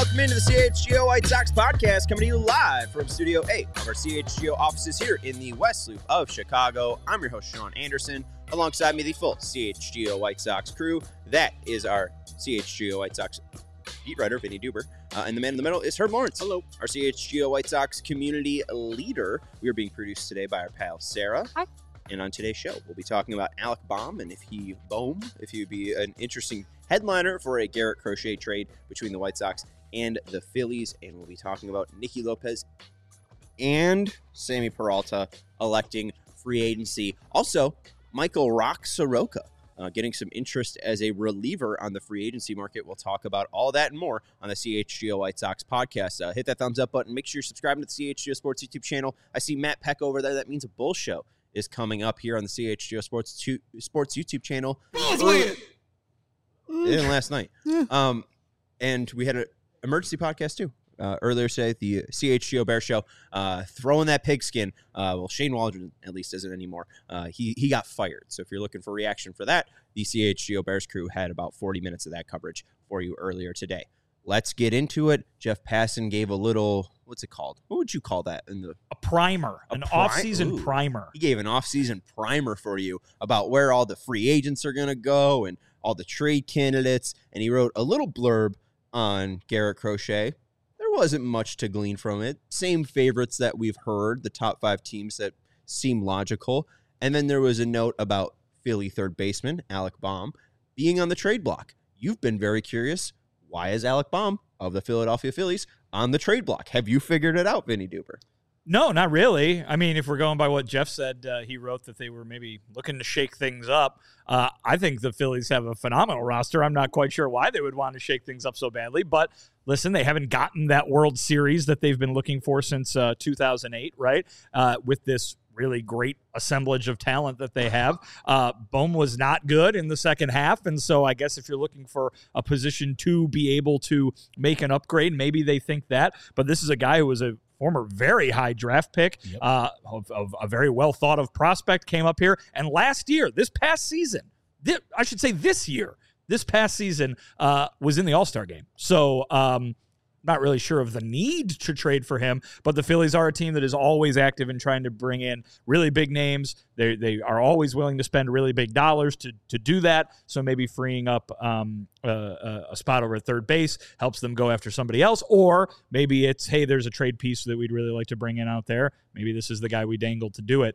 Welcome into the CHGO White Sox podcast, coming to you live from Studio 8 of our CHGO offices here in the West Loop of Chicago. I'm your host, Sean Anderson. Alongside me, the full CHGO White Sox crew. That is our CHGO White Sox beat writer, Vinny Duber. And the man in the middle is Herb Lawrence. Hello. Our CHGO White Sox community leader. We are being produced today by our pal, Sarah. Hi. And on today's show, we'll be talking about Alec Bohm and if he'd be an interesting headliner for a Garrett Crochet trade between the White Sox and the Phillies. And we'll be talking about Nicky Lopez and Sammy Peralta electing free agency. Also, Michael Rock Soroka getting some interest as a reliever on the free agency market. We'll talk about all that and more on the CHGO White Sox podcast. Hit that thumbs up button. Make sure you're subscribing to the CHGO Sports YouTube channel. I see Matt Peck over there. That means a Bull Show is coming up here on the CHGO Sports YouTube channel. It didn't last night. And we had an emergency podcast too. Earlier today, the CHGO Bear Show, throwing that pigskin. Well, Shane Waldron at least isn't anymore. He got fired. So if you're looking for reaction for that, the CHGO Bears crew had about 40 minutes of that coverage for you earlier today. Let's get into it. Jeff Passan gave a little, what's it called? What would you call that? A primer, an off-season primer. He gave an off-season primer for you about where all the free agents are going to go and all the trade candidates. And he wrote a little blurb on Garrett Crochet. There wasn't much to glean from it. Same favorites that we've heard, the top 5 teams that seem logical. And then there was a note about Philly third baseman Alec Bohm being on the trade block. You've been very curious. Why is Alec Bohm of the Philadelphia Phillies on the trade block? Have you figured it out, Vinny Duber? No, not really. I mean, if we're going by what Jeff said, he wrote that they were maybe looking to shake things up. I think the Phillies have a phenomenal roster. I'm not quite sure why they would want to shake things up so badly. But listen, they haven't gotten that World Series that they've been looking for since 2008, right? With this really great assemblage of talent that they have. Bohm was not good in the second half, and so I guess if you're looking for a position to be able to make an upgrade, maybe they think that. But this is a guy who was a former very high draft pick, of a very well-thought-of prospect, came up here. And this past season, was in the All-Star game. So not really sure of the need to trade for him, but the Phillies are a team that is always active in trying to bring in really big names. They are always willing to spend really big dollars to do that. So maybe freeing up a spot over at third base helps them go after somebody else, or maybe it's, hey, there's a trade piece that we'd really like to bring in out there. Maybe this is the guy we dangled to do it.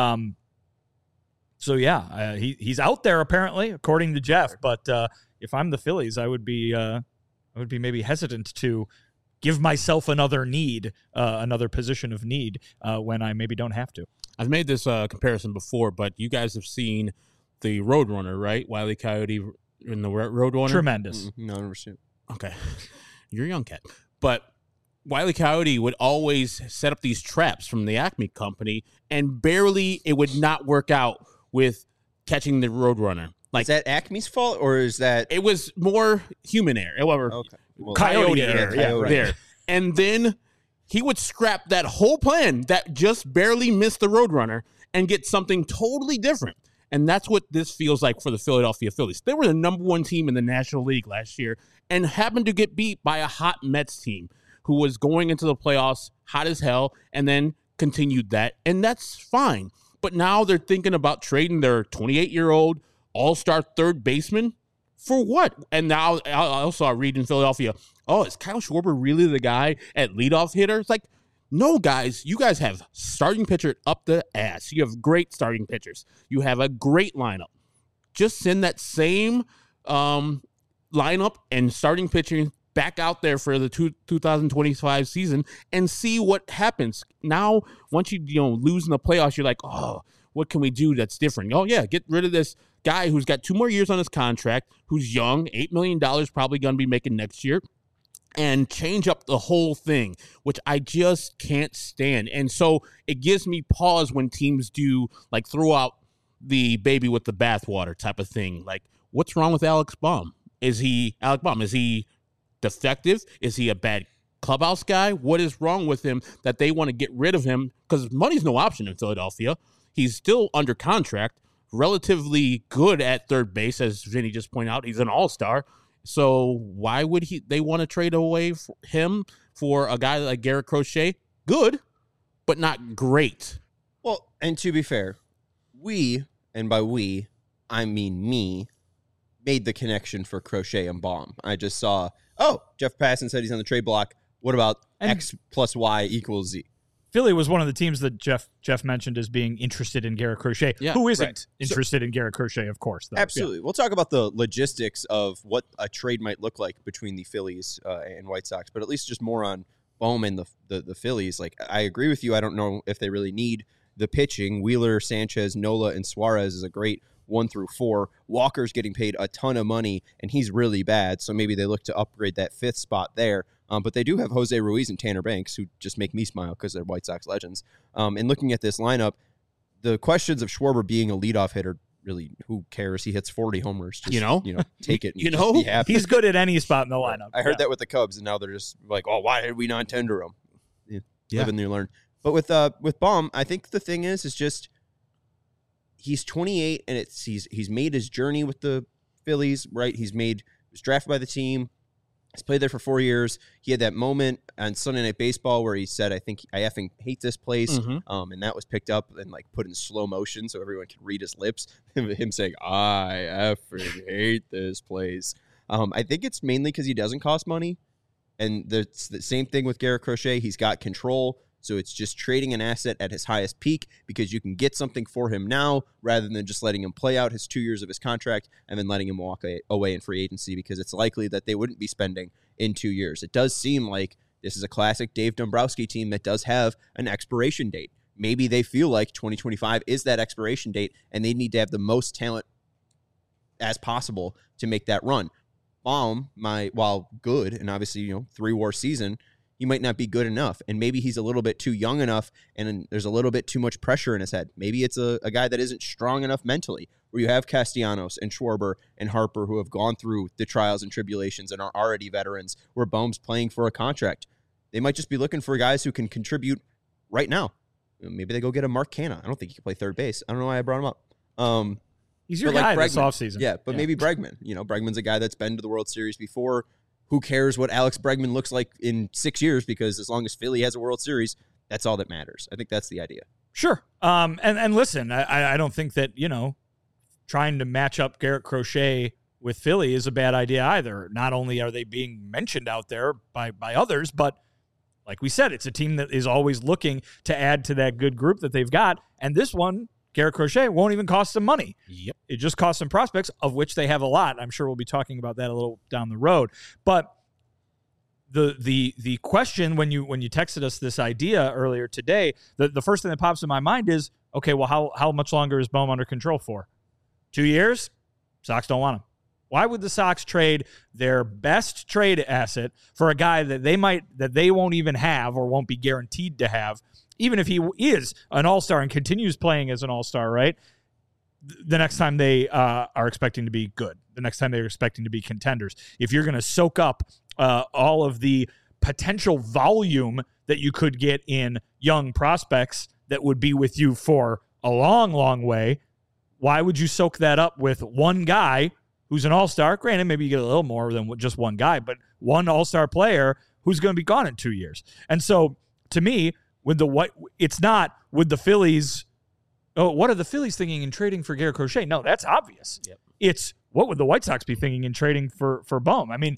He's out there apparently, according to Jeff. But if I'm the Phillies, I would be maybe hesitant to give myself another position of need when I maybe don't have to. I've made this comparison before, but you guys have seen the Roadrunner, right? Wile E. Coyote in the Roadrunner. Tremendous. No, I've never seen it. Okay. You're a young cat. But Wile E. Coyote would always set up these traps from the Acme company, and barely it would not work out with catching the Roadrunner. Like, is that Acme's fault, or is that... It was more human error. Okay. Well, Coyote error. Yeah, right. There. And then he would scrap that whole plan that just barely missed the Roadrunner and get something totally different. And that's what this feels like for the Philadelphia Phillies. They were the number 1 team in the National League last year and happened to get beat by a hot Mets team who was going into the playoffs hot as hell and then continued that. And that's fine. But now they're thinking about trading their 28-year-old all-star third baseman for what? And now I also read in Philadelphia, is Kyle Schwarber really the guy at leadoff hitter? It's like, no, guys, you guys have starting pitcher up the ass. You have great starting pitchers. You have a great lineup. Just send that same lineup and starting pitching back out there for the 2025 season and see what happens. Now, once you lose in the playoffs, you're like, what can we do that's different? Oh, yeah, get rid of this guy who's got 2 more years on his contract, who's young, $8 million probably going to be making next year, and change up the whole thing, which I just can't stand. And so it gives me pause when teams do, like, throw out the baby with the bathwater type of thing. Like, what's wrong with Alec Bohm? Is he defective? Is he a bad clubhouse guy? What is wrong with him that they want to get rid of him? Because money's no option in Philadelphia. He's still under contract, relatively good at third base, as Vinny just pointed out. He's an all-star. So why would they want to trade away him for a guy like Garrett Crochet? Good, but not great. Well, and to be fair, we, and by we, I mean me, made the connection for Crochet and Baum. I just saw, Jeff Passan said he's on the trade block. What about X plus Y equals Z? Philly was one of the teams that Jeff mentioned as being interested in Garrett Crochet. Yeah, Who isn't interested in Garrett Crochet, of course. Though. Absolutely. Yeah. We'll talk about the logistics of what a trade might look like between the Phillies and White Sox, but at least just more on Bohm and the Phillies. Like, I agree with you. I don't know if they really need the pitching. Wheeler, Sanchez, Nola, and Suarez is a great 1 through 4. Walker's getting paid a ton of money, and he's really bad, so maybe they look to upgrade that 5th spot there. But they do have Jose Ruiz and Tanner Banks, who just make me smile because they're White Sox legends. And looking at this lineup, the questions of Schwarber being a leadoff hitter, really, who cares? He hits 40 homers. Just, take it. And just be happy. He's good at any spot in the lineup. I heard that with the Cubs, and now they're just like, oh, why did we not tender him? Live and you learn. But with Baum, I think the thing is just he's 28, and he's made his journey with the Phillies, right? He was drafted by the team. He's played there for 4 years. He had that moment on Sunday Night Baseball where he said, I think I effing hate this place. And that was picked up and put in slow motion so everyone could read his lips. Him saying, I effing hate this place. I think it's mainly because he doesn't cost money. And it's the same thing with Garrett Crochet. He's got control. So it's just trading an asset at his highest peak because you can get something for him now rather than just letting him play out his 2 years of his contract and then letting him walk away in free agency because it's likely that they wouldn't be spending in 2 years. It does seem like this is a classic Dave Dombrowski team that does have an expiration date. Maybe they feel like 2025 is that expiration date and they need to have the most talent as possible to make that run. Baum, while good and obviously 3-war season, he might not be good enough, and maybe he's a little bit too young enough, and there's a little bit too much pressure in his head. Maybe it's a guy that isn't strong enough mentally, where you have Castellanos and Schwarber and Harper who have gone through the trials and tribulations and are already veterans, where Bohm's playing for a contract. They might just be looking for guys who can contribute right now. Maybe they go get a Mark Canha. I don't think he can play third base. I don't know why I brought him up. He's your guy this offseason. Yeah, but maybe Bregman. Bregman's a guy that's been to the World Series before. Who cares what Alex Bregman looks like in 6 years? Because as long as Philly has a World Series, that's all that matters. I think that's the idea. Sure. And listen, I don't think that, trying to match up Garrett Crochet with Philly is a bad idea either. Not only are they being mentioned out there by others, but like we said, it's a team that is always looking to add to that good group that they've got. And this one, Garrett Crochet, won't even cost them money. Yep. It just costs some prospects, of which they have a lot. I'm sure we'll be talking about that a little down the road. But the question when you texted us this idea earlier today, the first thing that pops in my mind is, okay, well, how much longer is Bohm under control for? 2 years? Sox don't want him. Why would the Sox trade their best trade asset for a guy that they won't even have or won't be guaranteed to have, even if he is an all-star and continues playing as an all-star, right? The next time they are expecting to be good, the next time they're expecting to be contenders. If you're going to soak up all of the potential volume that you could get in young prospects that would be with you for a long, long way, why would you soak that up with one guy who's an all-star? Granted, maybe you get a little more than just one guy, but one all-star player who's going to be gone in 2 years. And so, to me, it's not with the Phillies. Oh, what are the Phillies thinking in trading for Garrett Crochet? No, that's obvious. Yep. It's what would the White Sox be thinking in trading for Bohm? I mean,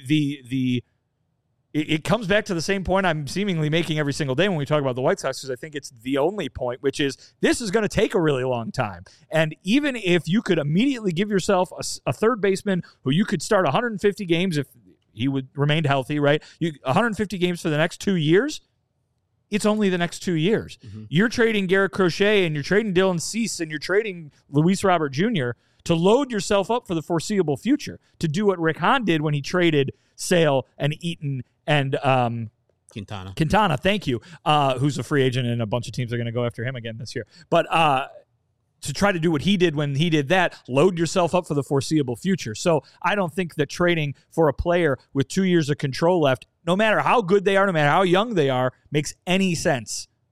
it comes back to the same point I'm seemingly making every single day when we talk about the White Sox, because I think it's the only point, which is this is going to take a really long time. And even if you could immediately give yourself a third baseman who you could start 150 games if he would remain healthy, right? 150 games for the next 2 years. It's only the next 2 years. Mm-hmm. You're trading Garrett Crochet and you're trading Dylan Cease and you're trading Luis Robert Jr. to load yourself up for the foreseeable future, to do what Rick Hahn did when he traded Sale and Eaton and Quintana, thank you, who's a free agent, and a bunch of teams are going to go after him again this year. But to try to do what he did when he did that, load yourself up for the foreseeable future. So I don't think that trading for a player with 2 years of control left, no matter how good they are, no matter how young they are, makes any sense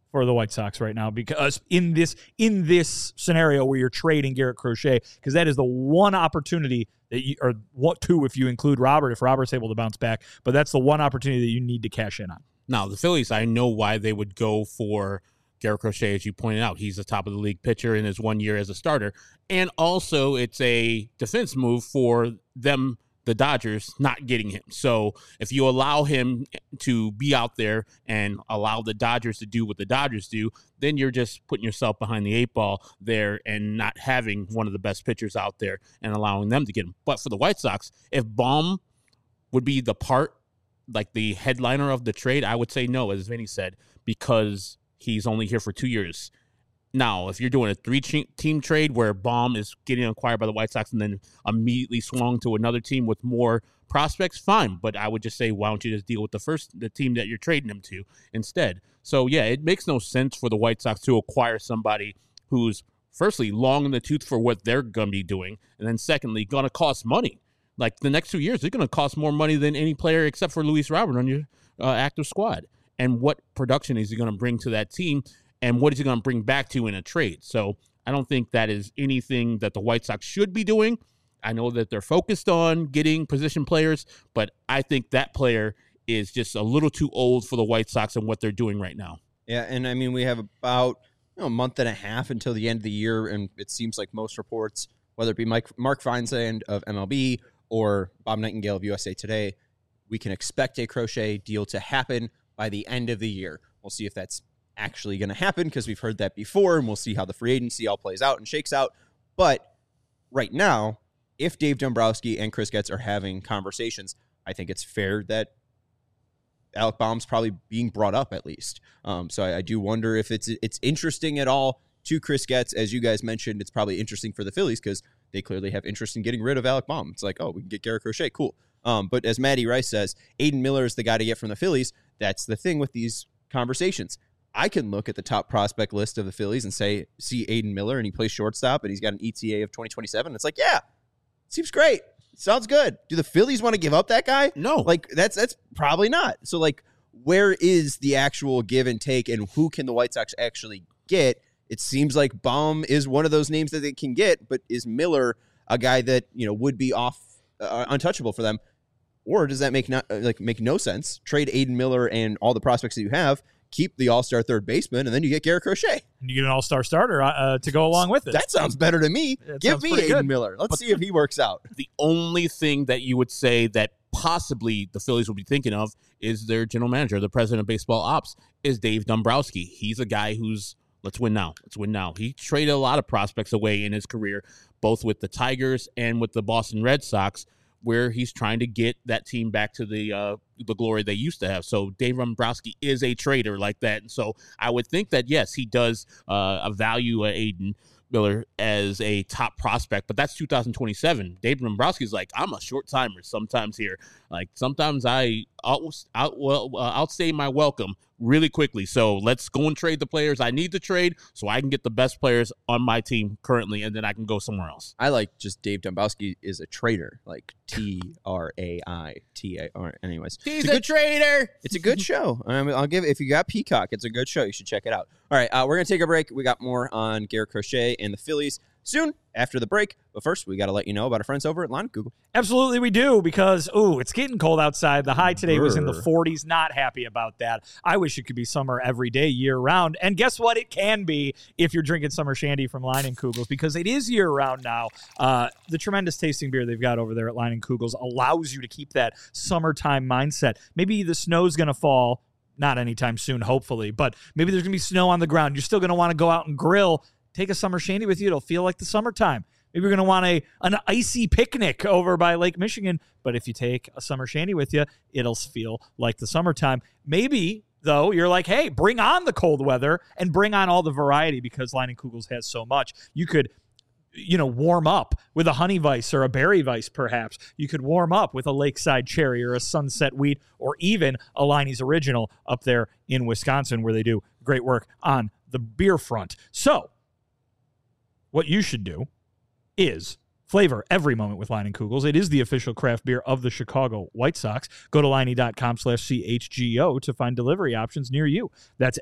for the White Sox right now, because in this scenario where you're trading Garrett Crochet, because that is the one opportunity that you, or what two if you include Robert, if Robert's able to bounce back, but that's the one opportunity that you need to cash in on. Now, the Phillies, I know why they would go for Garrett Crochet, as you pointed out. He's the top of the league pitcher in his 1 year as a starter. And also, it's a defense move for them, the Dodgers, not getting him. So if you allow him to be out there and allow the Dodgers to do what the Dodgers do, then you're just putting yourself behind the 8 ball there and not having one of the best pitchers out there and allowing them to get him. But for the White Sox, if Baum would be the part, like the headliner of the trade, I would say no, as Vinny said, because he's only here for 2 years. Now, if you're doing a 3-team trade where Baum is getting acquired by the White Sox and then immediately swung to another team with more prospects, fine. But I would just say, why don't you just deal with the team that you're trading him to instead? So, yeah, it makes no sense for the White Sox to acquire somebody who's, firstly, long in the tooth for what they're going to be doing, and then secondly, going to cost money. Like, the next 2 years, they're going to cost more money than any player except for Luis Robert on your active squad. And what production is he going to bring to that team? And what is he going to bring back to in a trade? So I don't think that is anything that the White Sox should be doing. I know that they're focused on getting position players, but I think that player is just a little too old for the White Sox and what they're doing right now. Yeah, and I mean, we have about a month and a half until the end of the year, and it seems like most reports, whether it be Mark Feinsand of MLB or Bob Nightingale of USA Today, we can expect a Crochet deal to happen by the end of the year. We'll see if that's actually going to happen, because we've heard that before, and we'll see how the free agency all plays out and shakes out. But right now, if Dave Dombrowski and Chris Getz are having conversations, I think it's fair that Alec Baum's probably being brought up at least. So I do wonder if it's interesting at all to Chris Getz. As you guys mentioned, it's probably interesting for the Phillies because they clearly have interest in getting rid of Alec Baum. It's like, oh, we can get Garrett Crochet. Cool. But as Matty Rice says, Aiden Miller is the guy to get from the Phillies. That's the thing with these conversations. I can look at the top prospect list of the Phillies and see Aiden Miller, and he plays shortstop, and he's got an ETA of 2027. It's like, yeah, seems great. Sounds good. Do the Phillies want to give up that guy? No. Like, that's probably not. So, like, where is the actual give and take, and who can the White Sox actually get? It seems like Baum is one of those names that they can get, but is Miller a guy that, would be untouchable for them? Or does that make no sense? Trade Aiden Miller and all the prospects that you have, keep the all-star third baseman, and then you get Garrett Crochet. And you get an all-star starter to go along with it. That sounds better to me. Give me Aiden Miller. Let's see if he works out. The only thing that you would say that possibly the Phillies would be thinking of is their general manager, the president of baseball ops, is Dave Dombrowski. He's a guy who's, let's win now. Let's win now. He traded a lot of prospects away in his career, both with the Tigers and with the Boston Red Sox, where he's trying to get that team back to the glory they used to have. So Dave Dombrowski is a trader like that. And so I would think that, yes, he does value Aiden Miller as a top prospect, but that's 2027. Dave Dombrowski's like, I'm a short timer sometimes here. Like, sometimes I outstay my welcome really quickly. So let's go and trade the players I need to trade so I can get the best players on my team currently, and then I can go somewhere else. I like just Dave Dombrowski is a trader, like TRAITAR. Anyways, he's a trader. It's a good show. I'll give it, if you got Peacock, it's a good show. You should check it out. All right, we're going to take a break. We got more on Garrett Crochet and the Phillies soon after the break. But first, we got to let you know about our friends over at Line Google. Absolutely, we do, because, it's getting cold outside. The high today was in the 40s. Not happy about that. I wish it could be summer every day, year-round. And guess what? It can be if you're drinking summer shandy from Line and Kugels, because it is year-round now. The tremendous tasting beer they've got over there at Line and Kugels allows you to keep that summertime mindset. Maybe the snow's going to fall. Not anytime soon, hopefully, but maybe there's going to be snow on the ground. You're still going to want to go out and grill. Take a summer shandy with you. It'll feel like the summertime. Maybe you're going to want an icy picnic over by Lake Michigan, but if you take a summer shandy with you, it'll feel like the summertime. Maybe, though, you're like, hey, bring on the cold weather and bring on all the variety, because Line and Kugels has so much. You could warm up with a honey vice or a berry vice, perhaps. You could warm up with a Lakeside Cherry or a Sunset Wheat, or even a Liney's Original up there in Wisconsin, where they do great work on the beer front. So what you should do is Flavor every moment with Leinenkugels. It is the official craft beer of the Chicago White Sox. Go to Leinie.com/CHGO to find delivery options near you. That's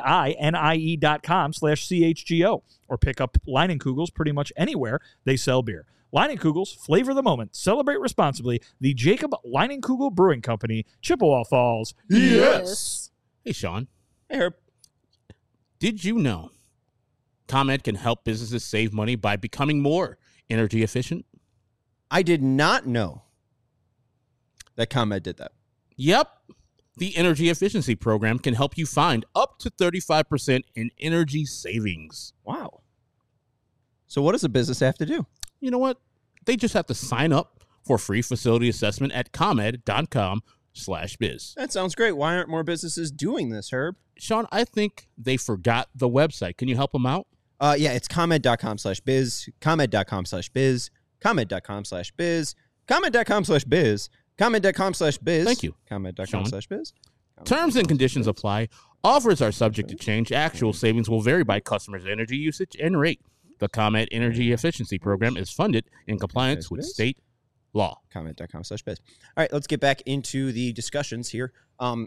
LEINIE.com/CHGO. Or pick up Leinenkugels pretty much anywhere they sell beer. Leinenkugels, flavor the moment. Celebrate responsibly. The Jacob Leinenkugel Brewing Company, Chippewa Falls. Yes. Hey, Sean. Hey, Herb. Did you know ComEd can help businesses save money by becoming more energy efficient? I did not know that ComEd did that. Yep. The Energy Efficiency Program can help you find up to 35% in energy savings. Wow. So what does a business have to do? You know what? They just have to sign up for a free facility assessment at ComEd.com/biz. That sounds great. Why aren't more businesses doing this, Herb? Sean, I think they forgot the website. Can you help them out? Yeah, it's ComEd.com/biz, ComEd.com/biz, ComEd.com/biz, ComEd.com/biz, ComEd.com/biz. Thank you. ComEd.com/biz. Terms and conditions apply. Offers are subject to change. Actual savings will vary by customer's energy usage and rate. The ComEd Energy Efficiency Program is funded in compliance with state law. ComEd.com/biz. All right, let's get back into the discussions here. I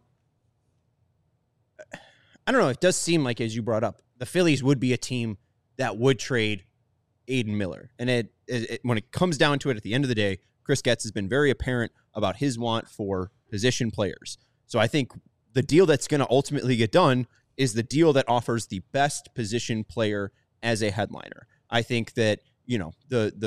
don't know. It does seem like, as you brought up, the Phillies would be a team that would trade Aiden Miller. And when it comes down to it, at the end of the day, Chris Getz has been very apparent about his want for position players. So I think the deal that's going to ultimately get done is the deal that offers the best position player as a headliner. I think that, you know,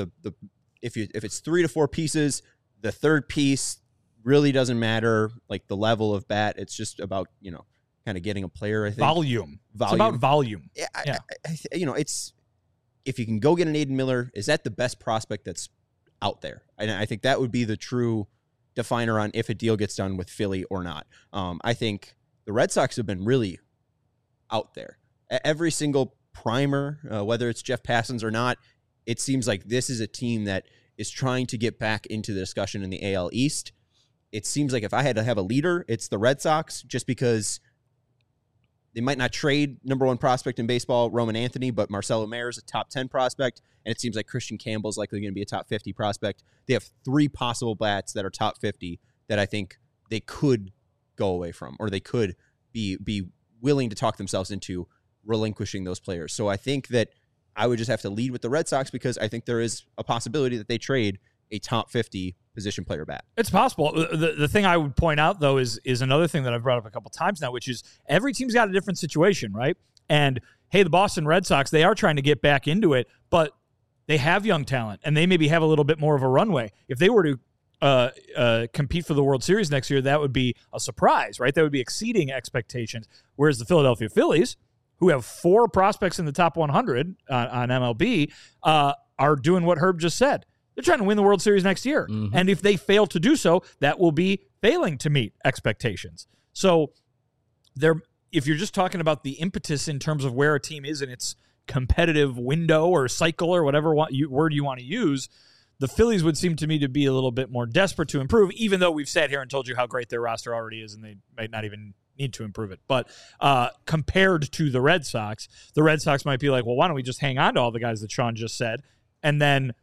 if it's 3 to 4 pieces, the third piece really doesn't matter, like the level of bat. It's just about, you know, kind of getting a player, I think. Volume. It's about volume. Yeah. You know, it's, if you can go get an Aiden Miller, is that the best prospect that's out there? And I think that would be the true definer on if a deal gets done with Philly or not. I think the Red Sox have been really out there. Every single primer, whether it's Jeff Passons or not, it seems like this is a team that is trying to get back into the discussion in the AL East. It seems like if I had to have a leader, it's the Red Sox, just because they might not trade number 1 prospect in baseball, Roman Anthony, but Marcelo Mayer is a top 10 prospect, and it seems like Christian Campbell is likely going to be a top 50 prospect. They have 3 possible bats that are top 50 that I think they could go away from, or they could be willing to talk themselves into relinquishing those players. So I think that I would just have to lead with the Red Sox, because I think there is a possibility that they trade a top 50 position player bat. It's possible. The thing I would point out, though, is another thing that I've brought up a couple times now, which is every team's got a different situation, right? And, hey, the Boston Red Sox, they are trying to get back into it, but they have young talent, and they maybe have a little bit more of a runway. If they were to compete for the World Series next year, that would be a surprise, right? That would be exceeding expectations. Whereas the Philadelphia Phillies, who have 4 prospects in the top 100 on MLB, are doing what Herb just said. They're trying to win the World Series next year. Mm-hmm. And if they fail to do so, that will be failing to meet expectations. So if you're just talking about the impetus in terms of where a team is in its competitive window or cycle or whatever word you want to use, the Phillies would seem to me to be a little bit more desperate to improve, even though we've sat here and told you how great their roster already is and they might not even need to improve it. But compared to the Red Sox might be like, well, why don't we just hang on to all the guys that Sean just said, and then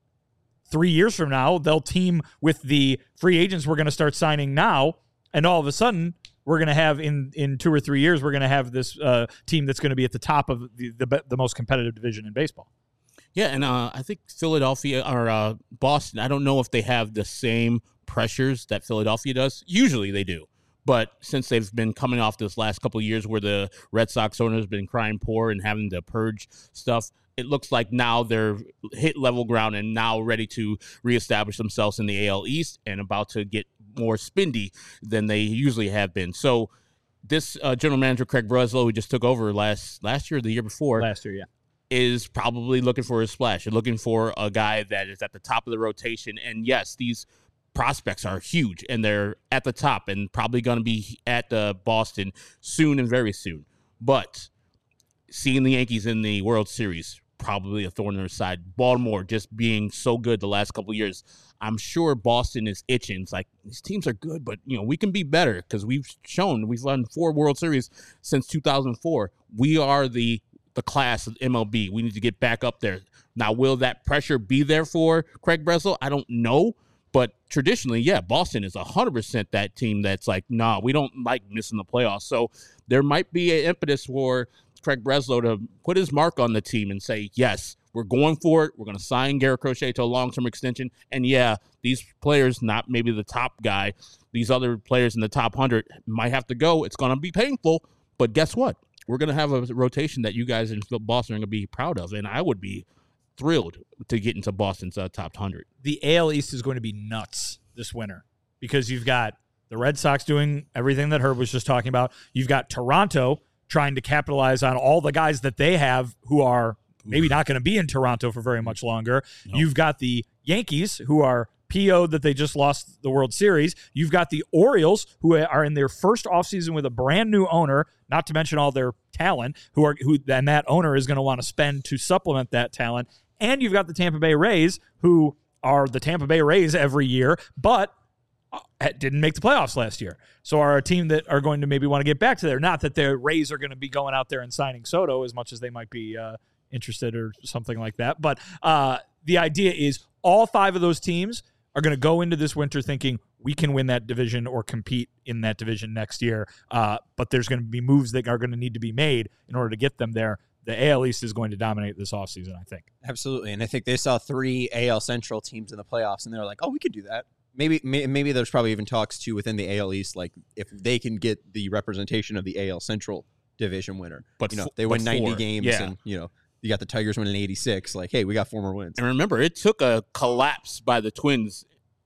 3 years from now, they'll team with the free agents we're going to start signing now, and all of a sudden, we're going to have, in 2 or 3 years, we're going to have this team that's going to be at the top of the most competitive division in baseball. Yeah, and I think Philadelphia or Boston, I don't know if they have the same pressures that Philadelphia does. Usually they do. But since they've been coming off this last couple of years where the Red Sox owner has been crying poor and having to purge stuff, it looks like now they're hit level ground and now ready to reestablish themselves in the AL East and about to get more spindy than they usually have been. So this general manager, Craig Breslow, who just took over last year or the year before. Last year, yeah. Is probably looking for a splash. You're looking for a guy that is at the top of the rotation. And yes, these prospects are huge and they're at the top and probably going to be at Boston soon and very soon. But seeing the Yankees in the World Series, probably a thorn in their side. Baltimore just being so good the last couple of years. I'm sure Boston is itching. It's like, these teams are good, but we can be better because we've won 4 World Series since 2004. We are the the class of MLB. We need to get back up there. Now, will that pressure be there for Craig Breslow? I don't know. But traditionally, yeah, Boston is 100% that team that's like, nah, we don't like missing the playoffs. So there might be an impetus for Craig Breslow to put his mark on the team and say, yes, we're going for it. We're going to sign Garrett Crochet to a long-term extension. And, yeah, these players, not maybe the top guy, these other players in the top 100 might have to go. It's going to be painful. But guess what? We're going to have a rotation that you guys in Boston are going to be proud of. And I would be thrilled to get into Boston's top 100. The AL East is going to be nuts this winter because you've got the Red Sox doing everything that Herb was just talking about. You've got Toronto trying to capitalize on all the guys that they have who are maybe not going to be in Toronto for very much longer. No. You've got the Yankees who are PO'd that they just lost the World Series. You've got the Orioles who are in their first offseason with a brand new owner, not to mention all their talent, who and that owner is going to want to spend to supplement that talent. And you've got the Tampa Bay Rays, who are the Tampa Bay Rays every year, but didn't make the playoffs last year. So are a team that are going to maybe want to get back to there. Not that the Rays are going to be going out there and signing Soto as much as they might be interested or something like that. But the idea is all 5 of those teams are going to go into this winter thinking we can win that division or compete in that division next year. But there's going to be moves that are going to need to be made in order to get them there. The AL East is going to dominate this offseason, I think. Absolutely. And I think they saw 3 AL Central teams in the playoffs, and they're like, oh, we could do that. Maybe there's probably even talks, too, within the AL East, like if they can get the representation of the AL Central division winner. But they win 90 games, and, you got the Tigers winning 86. Like, hey, we got 4 more wins. And remember, it took a collapse by the Twins,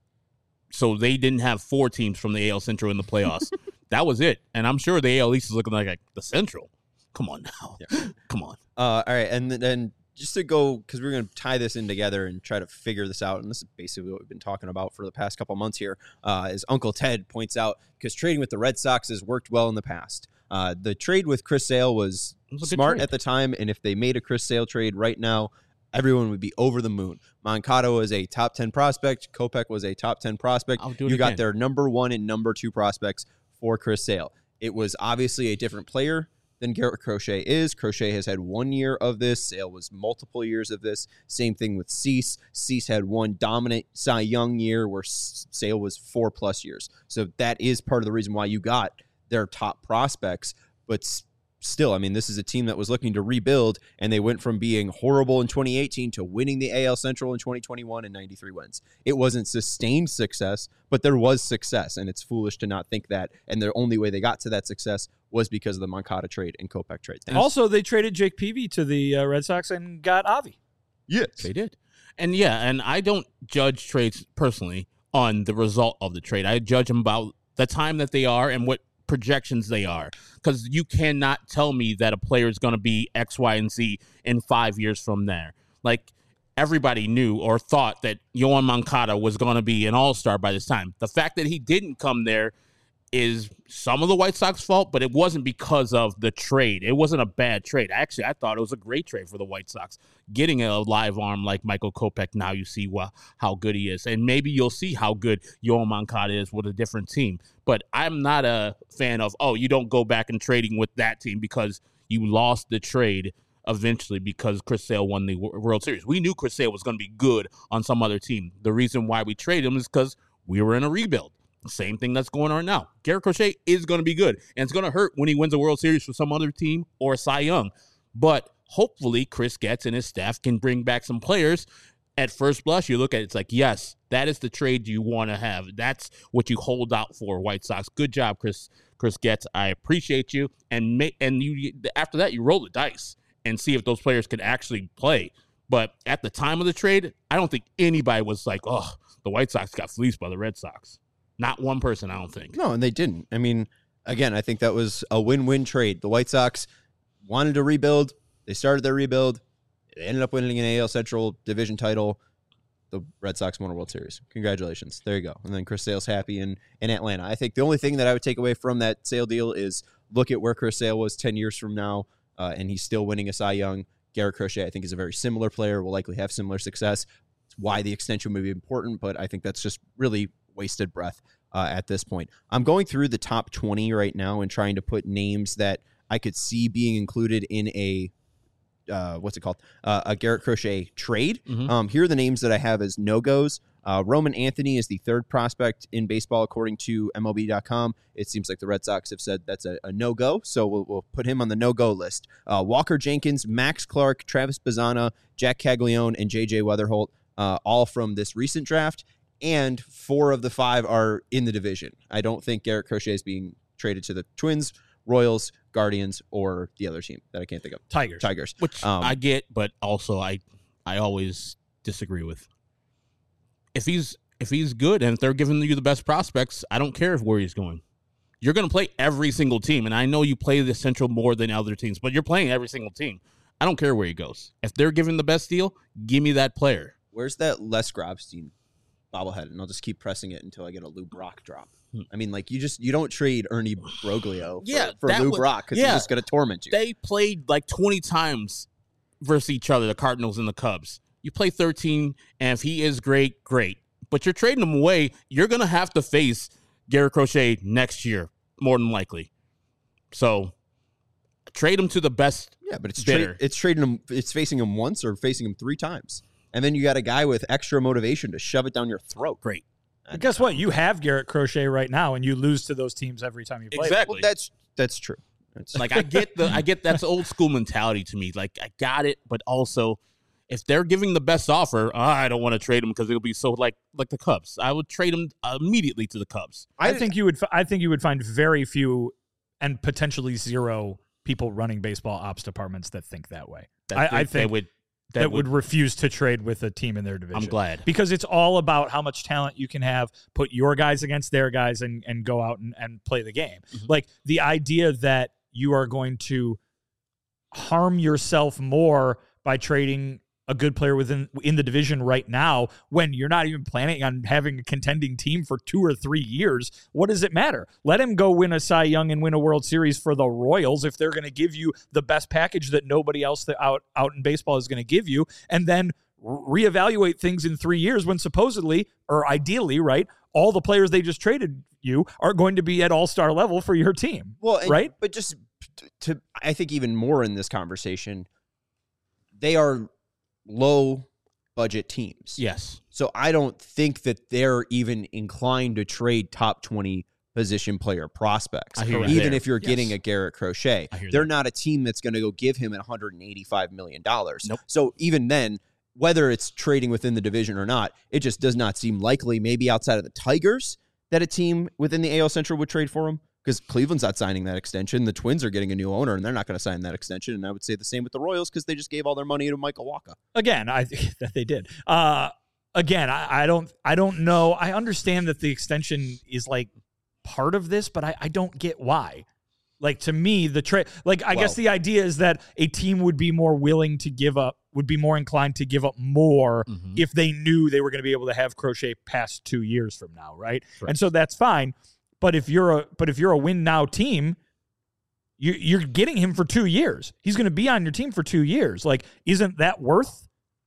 so they didn't have 4 teams from the AL Central in the playoffs. That was it. And I'm sure the AL East is looking like the Central. Come on now. Yeah. Come on. All right. And then just to go, because we're going to tie this in together and try to figure this out, and this is basically what we've been talking about for the past couple months here, as Uncle Ted points out, because trading with the Red Sox has worked well in the past. The trade with Chris Sale was smart at the time, and if they made a Chris Sale trade right now, everyone would be over the moon. Moncada was a top 10 prospect. Kopech was a top 10 prospect. You got their number 1 and number 2 prospects for Chris Sale. It was obviously a different player than Garrett Crochet is. Crochet has had 1 year of this. Sale was multiple years of this. Same thing with Cease. Cease had 1 dominant Cy Young year where Sale was 4+ years. So that is part of the reason why you got their top prospects. But still, I mean, this is a team that was looking to rebuild, and they went from being horrible in 2018 to winning the AL Central in 2021 and 93 wins. It wasn't sustained success, but there was success, and it's foolish to not think that. And the only way they got to that success was because of the Moncada trade and Kopech trade. Also, they traded Jake Peavy to the Red Sox and got Avi. Yes. They did. And and I don't judge trades personally on the result of the trade. I judge them about the time that they are and what projections they are, because you cannot tell me that a player is going to be X, Y, and Z in 5 years from there. Like, everybody knew or thought that Yoan Moncada was going to be an all-star by this time. The fact that he didn't come there is some of the White Sox fault, but it wasn't because of the trade. It wasn't a bad trade. Actually, I thought it was a great trade for the White Sox. Getting a live arm like Michael Kopech, now you see how good he is. And maybe you'll see how good Yoan Moncada is with a different team. But I'm not a fan of, you don't go back and trading with that team because you lost the trade eventually because Chris Sale won the World Series. We knew Chris Sale was going to be good on some other team. The reason why we traded him is because we were in a rebuild. Same thing that's going on now. Garrett Crochet is going to be good, and it's going to hurt when he wins a World Series for some other team or Cy Young. But hopefully Chris Getz and his staff can bring back some players. At first blush, you look at it, it's like, yes, that is the trade you want to have. That's what you hold out for, White Sox. Good job, Chris Getz. I appreciate you. And you after that, you roll the dice and see if those players can actually play. But at the time of the trade, I don't think anybody was like, the White Sox got fleeced by the Red Sox. Not one person, I don't think. No, and they didn't. I mean, again, I think that was a win-win trade. The White Sox wanted to rebuild. They started their rebuild. They ended up winning an AL Central division title. The Red Sox won a World Series. Congratulations. There you go. And then Chris Sale's happy in Atlanta. I think the only thing that I would take away from that Sale deal is look at where Chris Sale was 10 years from now, and he's still winning a Cy Young. Garrett Crochet, I think, is a very similar player, will likely have similar success. It's why the extension may be important, but I think that's just really wasted breath at this point. I'm going through the top 20 right now and trying to put names that I could see being included in a what's it called? A Garrett Crochet trade. Mhm. Here are the names that I have as no-goes. Roman Anthony is the third prospect in baseball, according to MLB.com. It seems like the Red Sox have said that's a no-go, so we'll put him on the no-go list. Walker Jenkins, Max Clark, Travis Bazzana, Jack Caglione, and J.J. Weatherholt, all from this recent draft, and 4 of the 5 are in the division. I don't think Garrett Crochet is being traded to the Twins, Royals, Guardians, or the other team that I can't think of. Tigers. Which I get, but also I always disagree with. If he's good and if they're giving you the best prospects, I don't care where he's going. You're going to play every single team, and I know you play the Central more than other teams, but you're playing every single team. I don't care where he goes. If they're giving the best deal, give me that player. Where's that Les Grobstein bobblehead? And I'll just keep pressing it until I get a Lou Brock drop. I mean, like, you don't trade Ernie Broglio for Lou Brock because he's just going to torment you. They played like 20 times versus each other, the Cardinals and the Cubs. You play 13, and if he is great, great. But you're trading him away. You're going to have to face Garrett Crochet next year, more than likely. So trade him to the best. Yeah, but it's trading him. It's facing him once or facing him 3 times, and then you got a guy with extra motivation to shove it down your throat. Great. But guess what? You have Garrett Crochet right now, and you lose to those teams every time you play. Exactly. Well, that's true. Like I get that's old school mentality to me. Like I got it, but also if they're giving the best offer, I don't want to trade him because it'll be so like the Cubs. I would trade him immediately to the Cubs. I think you would find very few and potentially 0 people running baseball ops departments that think that way. I think they would refuse to trade with a team in their division. I'm glad. Because it's all about how much talent you can have, put your guys against their guys, and go out and play the game. Mm-hmm. Like, the idea that you are going to harm yourself more by trading a good player in the division right now when you're not even planning on having a contending team for 2 or 3 years. What does it matter? Let him go win a Cy Young and win a World Series for the Royals if they're going to give you the best package that nobody else out in baseball is going to give you, and then reevaluate things in 3 years when supposedly, or ideally, right, all the players they just traded you are going to be at all-star level for your team. Well, right? But just to, I think even more in this conversation, they are low budget teams. Yes. So I don't think that they're even inclined to trade top 20 position player prospects, even if you're getting a Garrett Crochet. They're not a team that's going to go give him $185 million. Nope. So even then, whether it's trading within the division or not, it just does not seem likely, maybe outside of the Tigers, that a team within the AL Central would trade for him. Because Cleveland's not signing that extension. The Twins are getting a new owner, and they're not going to sign that extension. And I would say the same with the Royals because they just gave all their money to Michael Wacha. Again, I think that they did. Again, I don't know. I understand that the extension is like part of this, but I don't get why. Like, to me, the trade, like, I guess the idea is that a team would be more willing to give up, would be more inclined to give up more if they knew they were going to be able to have Crochet past 2 years from now, right? And so that's fine. But if you're a win now team, you're getting him for 2 years. He's going to be on your team for 2 years. Like, isn't that worth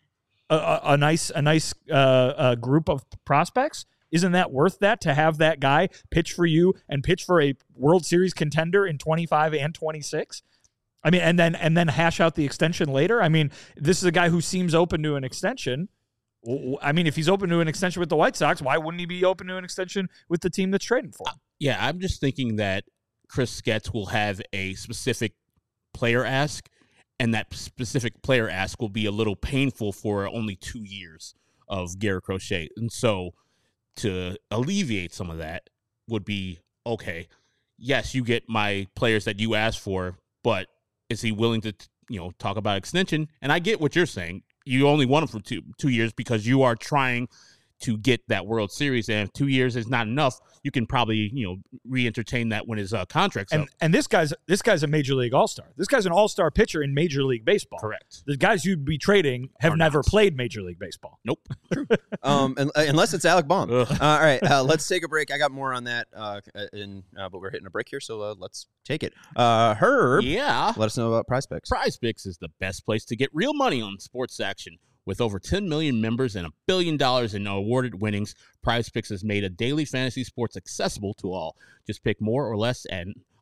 a nice group of prospects? Isn't that worth that, to have that guy pitch for you and pitch for a World Series contender in 25 and 26? I mean, and then hash out the extension later. I mean, this is a guy who seems open to an extension. I mean, if he's open to an extension with the White Sox, why wouldn't he be open to an extension with the team that's trading for him? Yeah, I'm just thinking that Chris Getz will have a specific player ask, and that specific player ask will be a little painful for only 2 years of Garrett Crochet. And so to alleviate some of that would be, okay, yes, you get my players that you asked for, but is he willing to, talk about extension? And I get what you're saying. You only want him for 2 years because you are trying to get that World Series, and if 2 years is not enough, you can probably re-entertain that when his contract's up. And this guy's a Major League All-Star. This guy's an All-Star pitcher in Major League Baseball. Correct. The guys you'd be trading have never played Major League Baseball. Nope. Unless it's Alec Baum. All right, let's take a break. I got more on that, but we're hitting a break here, so let's take it. Herb, let us know about Prize Picks. Prize Picks is the best place to get real money on sports action. With over 10 million members and $1 billion in awarded winnings, Prize Picks has made a daily fantasy sports accessible to all. Just pick more or less and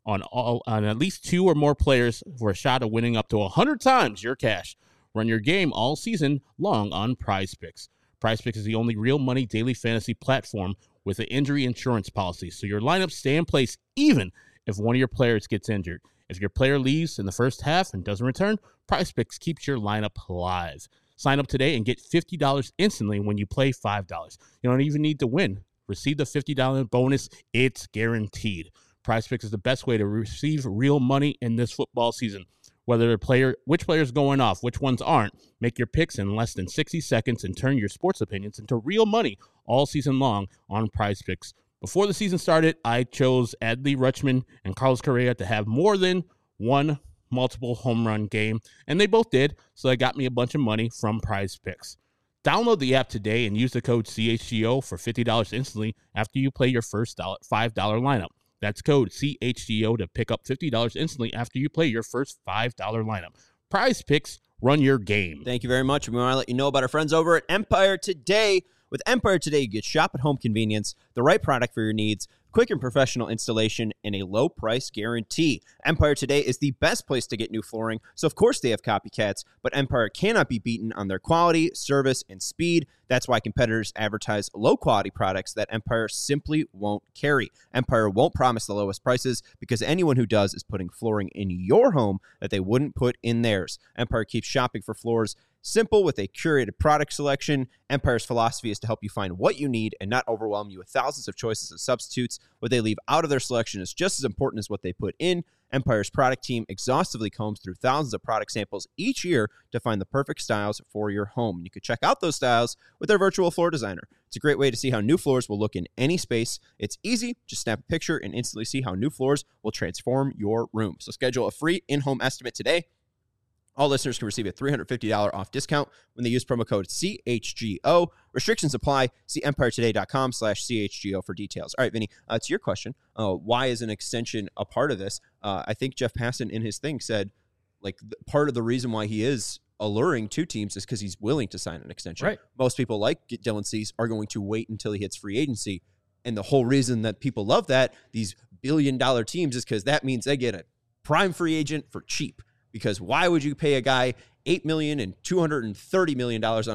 on at least 2 or more players for a shot of winning up to 100 times your cash. Run your game all season long on PrizePicks. PrizePicks is the only real money daily fantasy platform with an injury insurance policy, so your lineups stay in place even if one of your players gets injured. If your player leaves in the first half and doesn't return, PrizePicks keeps your lineup alive. Sign up today and get $50 instantly when you play $5. You don't even need to win. Receive the $50 bonus. It's guaranteed. PrizePicks is the best way to receive real money in this football season. Whether which player's going off, which ones aren't, make your picks in less than 60 seconds and turn your sports opinions into real money all season long on PrizePicks. Before the season started, I chose Adley Rutschman and Carlos Correa to have more than one multiple home run game, and they both did, so that got me a bunch of money from PrizePicks. Download the app today and use the code CHGO for $50 instantly after you play your first $5 lineup. That's code CHGO to pick up $50 instantly after you play your first $5 lineup. PrizePicks, run your game. Thank you very much. We want to let you know about our friends over at Empire Today. With Empire Today, you get shop at home convenience, the right product for your needs, quick and professional installation, and a low price guarantee. Empire Today is the best place to get new flooring, so of course they have copycats, but Empire cannot be beaten on their quality, service, and speed. That's why competitors advertise low-quality products that Empire simply won't carry. Empire won't promise the lowest prices because anyone who does is putting flooring in your home that they wouldn't put in theirs. Empire keeps shopping for floors simple with a curated product selection. Empire's philosophy is to help you find what you need and not overwhelm you with thousands of choices of substitutes. What they leave out of their selection is just as important as what they put in. Empire's product team exhaustively combs through thousands of product samples each year to find the perfect styles for your home. You can check out those styles with their virtual floor designer. It's a great way to see how new floors will look in any space. It's easy. Just snap a picture and instantly see how new floors will transform your room. So schedule a free in-home estimate today. All listeners can receive a $350 off discount when they use promo code CHGO. Restrictions apply. See EmpireToday.com/CHGO for details. All right, Vinny, to your question, why is an extension a part of this? I think Jeff Passan in his thing said, like, part of the reason why he is alluring to teams is because he's willing to sign an extension. Right. Most people like Dylan Cease are going to wait until he hits free agency. And the whole reason that people love that, these billion-dollar teams, is because that means they get a prime free agent for cheap. Because why would you pay a guy $8 million and $230 million on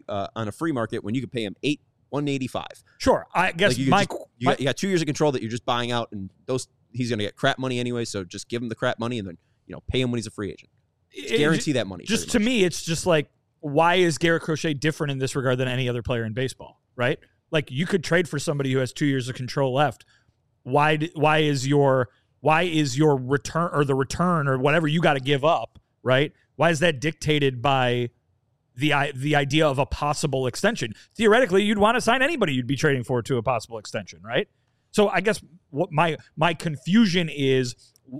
a free market when you could pay him $185? Sure, I guess you got 2 years of control that you're just buying out, and he's going to get crap money anyway. So just give him the crap money and then pay him when he's a free agent. Guarantee that money. Just to me, it's just like, why is Garrett Crochet different in this regard than any other player in baseball? Right? Like, you could trade for somebody who has 2 years of control left. Why is your return or the return or whatever you got to give up, right? Why is that dictated by the idea of a possible extension? Theoretically, you'd want to sign anybody you'd be trading for to a possible extension, right? So I guess what my confusion is,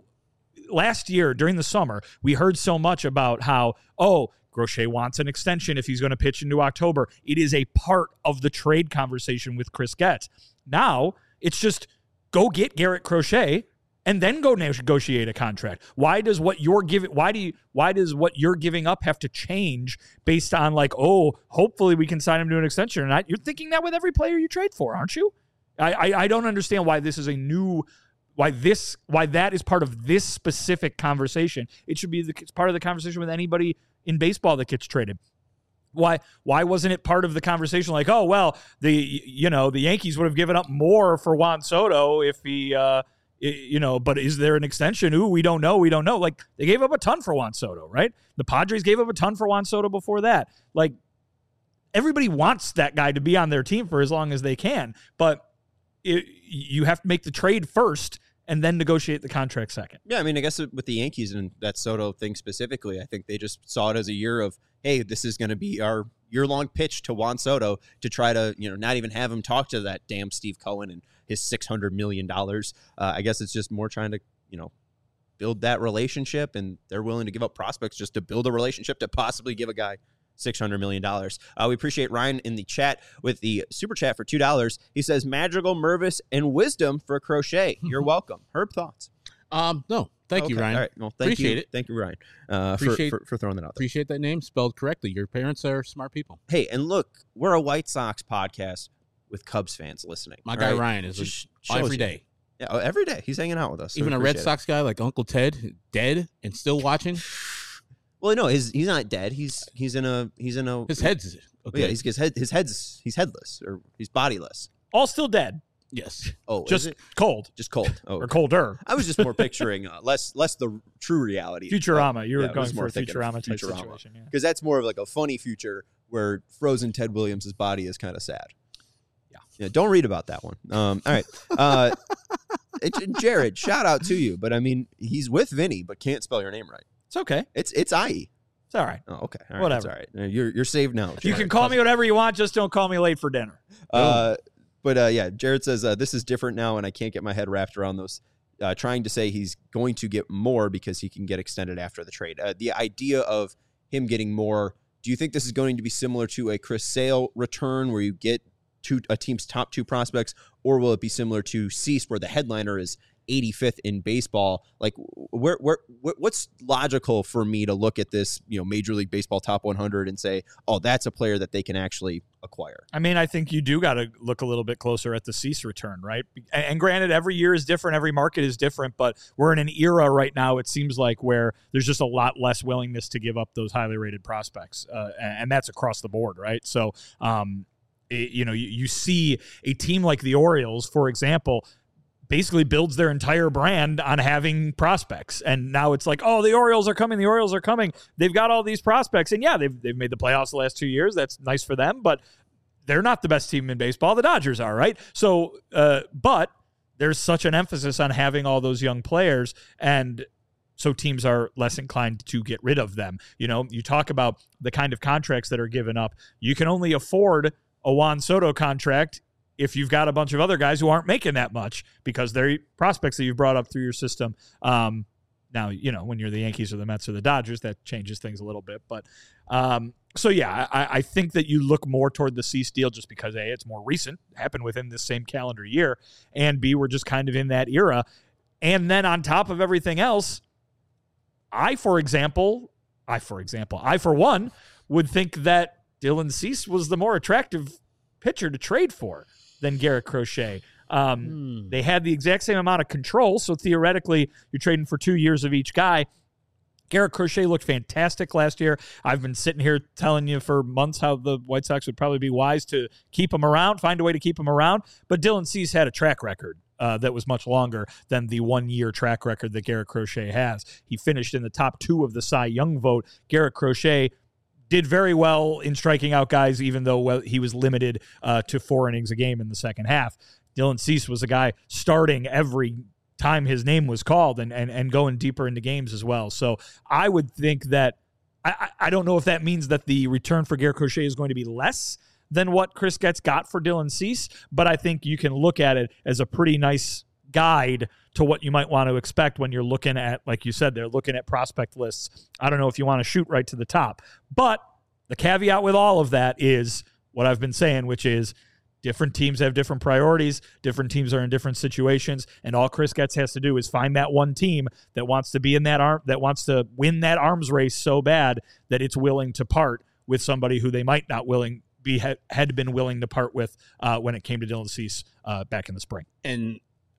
last year during the summer, we heard so much about how, Crochet wants an extension if he's going to pitch into October. It is a part of the trade conversation with Chris Getz. Now it's just go get Garrett Crochet and then go negotiate a contract. Why does what you're giving up have to change based on hopefully we can sign him to an extension or not? You're thinking that with every player you trade for, aren't you? I don't understand why this is why that is part of this specific conversation. It should be it's part of the conversation with anybody in baseball that gets traded. Why wasn't it part of the conversation? Like, the Yankees would have given up more for Juan Soto if he but is there an extension? Ooh, we don't know. Like, they gave up a ton for Juan Soto, right? The Padres gave up a ton for Juan Soto before that. Like, everybody wants that guy to be on their team for as long as they can, but you have to make the trade first and then negotiate the contract second. Yeah, I mean, I guess with the Yankees and that Soto thing specifically, I think they just saw it as a year of, hey, this is going to be our year-long pitch to Juan Soto to try to, not even have him talk to that damn Steve Cohen and his $600 million. I guess it's just more trying to, build that relationship, and they're willing to give up prospects just to build a relationship to possibly give a guy $600 million. We appreciate Ryan in the chat with the super chat for $2. He says Madrigal, Mervis, and Wisdom for Crochet. You're welcome. Herb, thoughts? No. Thank you, Ryan. All right. Well, appreciate it. Thank you, Ryan, for throwing that out there. Appreciate that name spelled correctly. Your parents are smart people. Hey, and look, we're a White Sox podcast with Cubs fans listening. My guy Ryan is every day. Yeah, every day he's hanging out with us. So Even a Red Sox guy like Uncle Ted, dead and still watching. Well, no, he's not dead. He's in a His head's okay. Yeah, he's headless or he's bodiless. All still dead. Yes. Oh, Just cold. Just cold. Oh, Or colder. I was just more picturing less the true reality. Futurama. You were Yeah, I was going for more a thinking Futurama type Futurama. situation. Yeah. Because that's more of like a funny future where frozen Ted Williams' body is kind of sad. Yeah. Don't read about that one. All right. Jared, shout out to you. But I mean, he's with Vinny, but can't spell your name right. It's okay. It's IE. It's all right. Oh, okay. All right. Whatever. That's all right. You're saved now. You can call me whatever you want. Just don't call me late for dinner. But yeah, Jared says this is different now, and I can't get my head wrapped around those. Trying to say he's going to get more because he can get extended after the trade. The idea of him getting more. Do you think this is going to be similar to a Chris Sale return, where you get a team's top 2 prospects, or will it be similar to Cease, where the headliner is 85th in baseball? Like, what's logical for me to look at this, Major League Baseball top 100 and say, oh, that's a player that they can actually acquire? I mean, I think you do got to look a little bit closer at the Cease return, right? And granted, every year is different, every market is different, but we're in an era right now, it seems like, where there's just a lot less willingness to give up those highly rated prospects, and that's across the board, right? So, you see a team like the Orioles, for example, basically builds their entire brand on having prospects. And now it's like, oh, the Orioles are coming. They've got all these prospects. And yeah, they've made the playoffs the last 2 years. That's nice for them, but they're not the best team in baseball. The Dodgers are, right? So, but there's such an emphasis on having all those young players, and so teams are less inclined to get rid of them. You talk about the kind of contracts that are given up. You can only afford a Juan Soto contract if you've got a bunch of other guys who aren't making that much because they're prospects that you've brought up through your system. Now, when you're the Yankees or the Mets or the Dodgers, that changes things a little bit. But so, yeah, I think that you look more toward the Cease deal just because, A, it's more recent, happened within this same calendar year, and B, we're just kind of in that era. And then on top of everything else, I, for one, would think that Dylan Cease was the more attractive pitcher to trade for than Garrett Crochet. They had the exact same amount of control, so theoretically you're trading for 2 years of each guy. Garrett Crochet looked fantastic last year. I've been sitting here telling you for months how the White Sox would probably be wise to keep him around, find a way to keep him around, but Dylan Cease had a track record that was much longer than the 1 year track record that Garrett Crochet has. He finished in the top 2 of the Cy Young vote. Garrett Crochet did very well in striking out guys, even though he was limited to 4 innings a game in the second half. Dylan Cease was a guy starting every time his name was called and going deeper into games as well. So I would think that I don't know if that means that the return for Garrett Crochet is going to be less than what Chris Getz got for Dylan Cease, but I think you can look at it as a pretty nice guide to what you might want to expect when you're looking at, like you said, they're looking at prospect lists. I don't know if you want to shoot right to the top, but the caveat with all of that is what I've been saying, which is different teams have different priorities, different teams are in different situations, and all Chris Getz has to do is find that one team that wants to be in that that wants to win that arms race so bad that it's willing to part with somebody who they might not had been willing to part with when it came to Dylan Cease back in the spring. And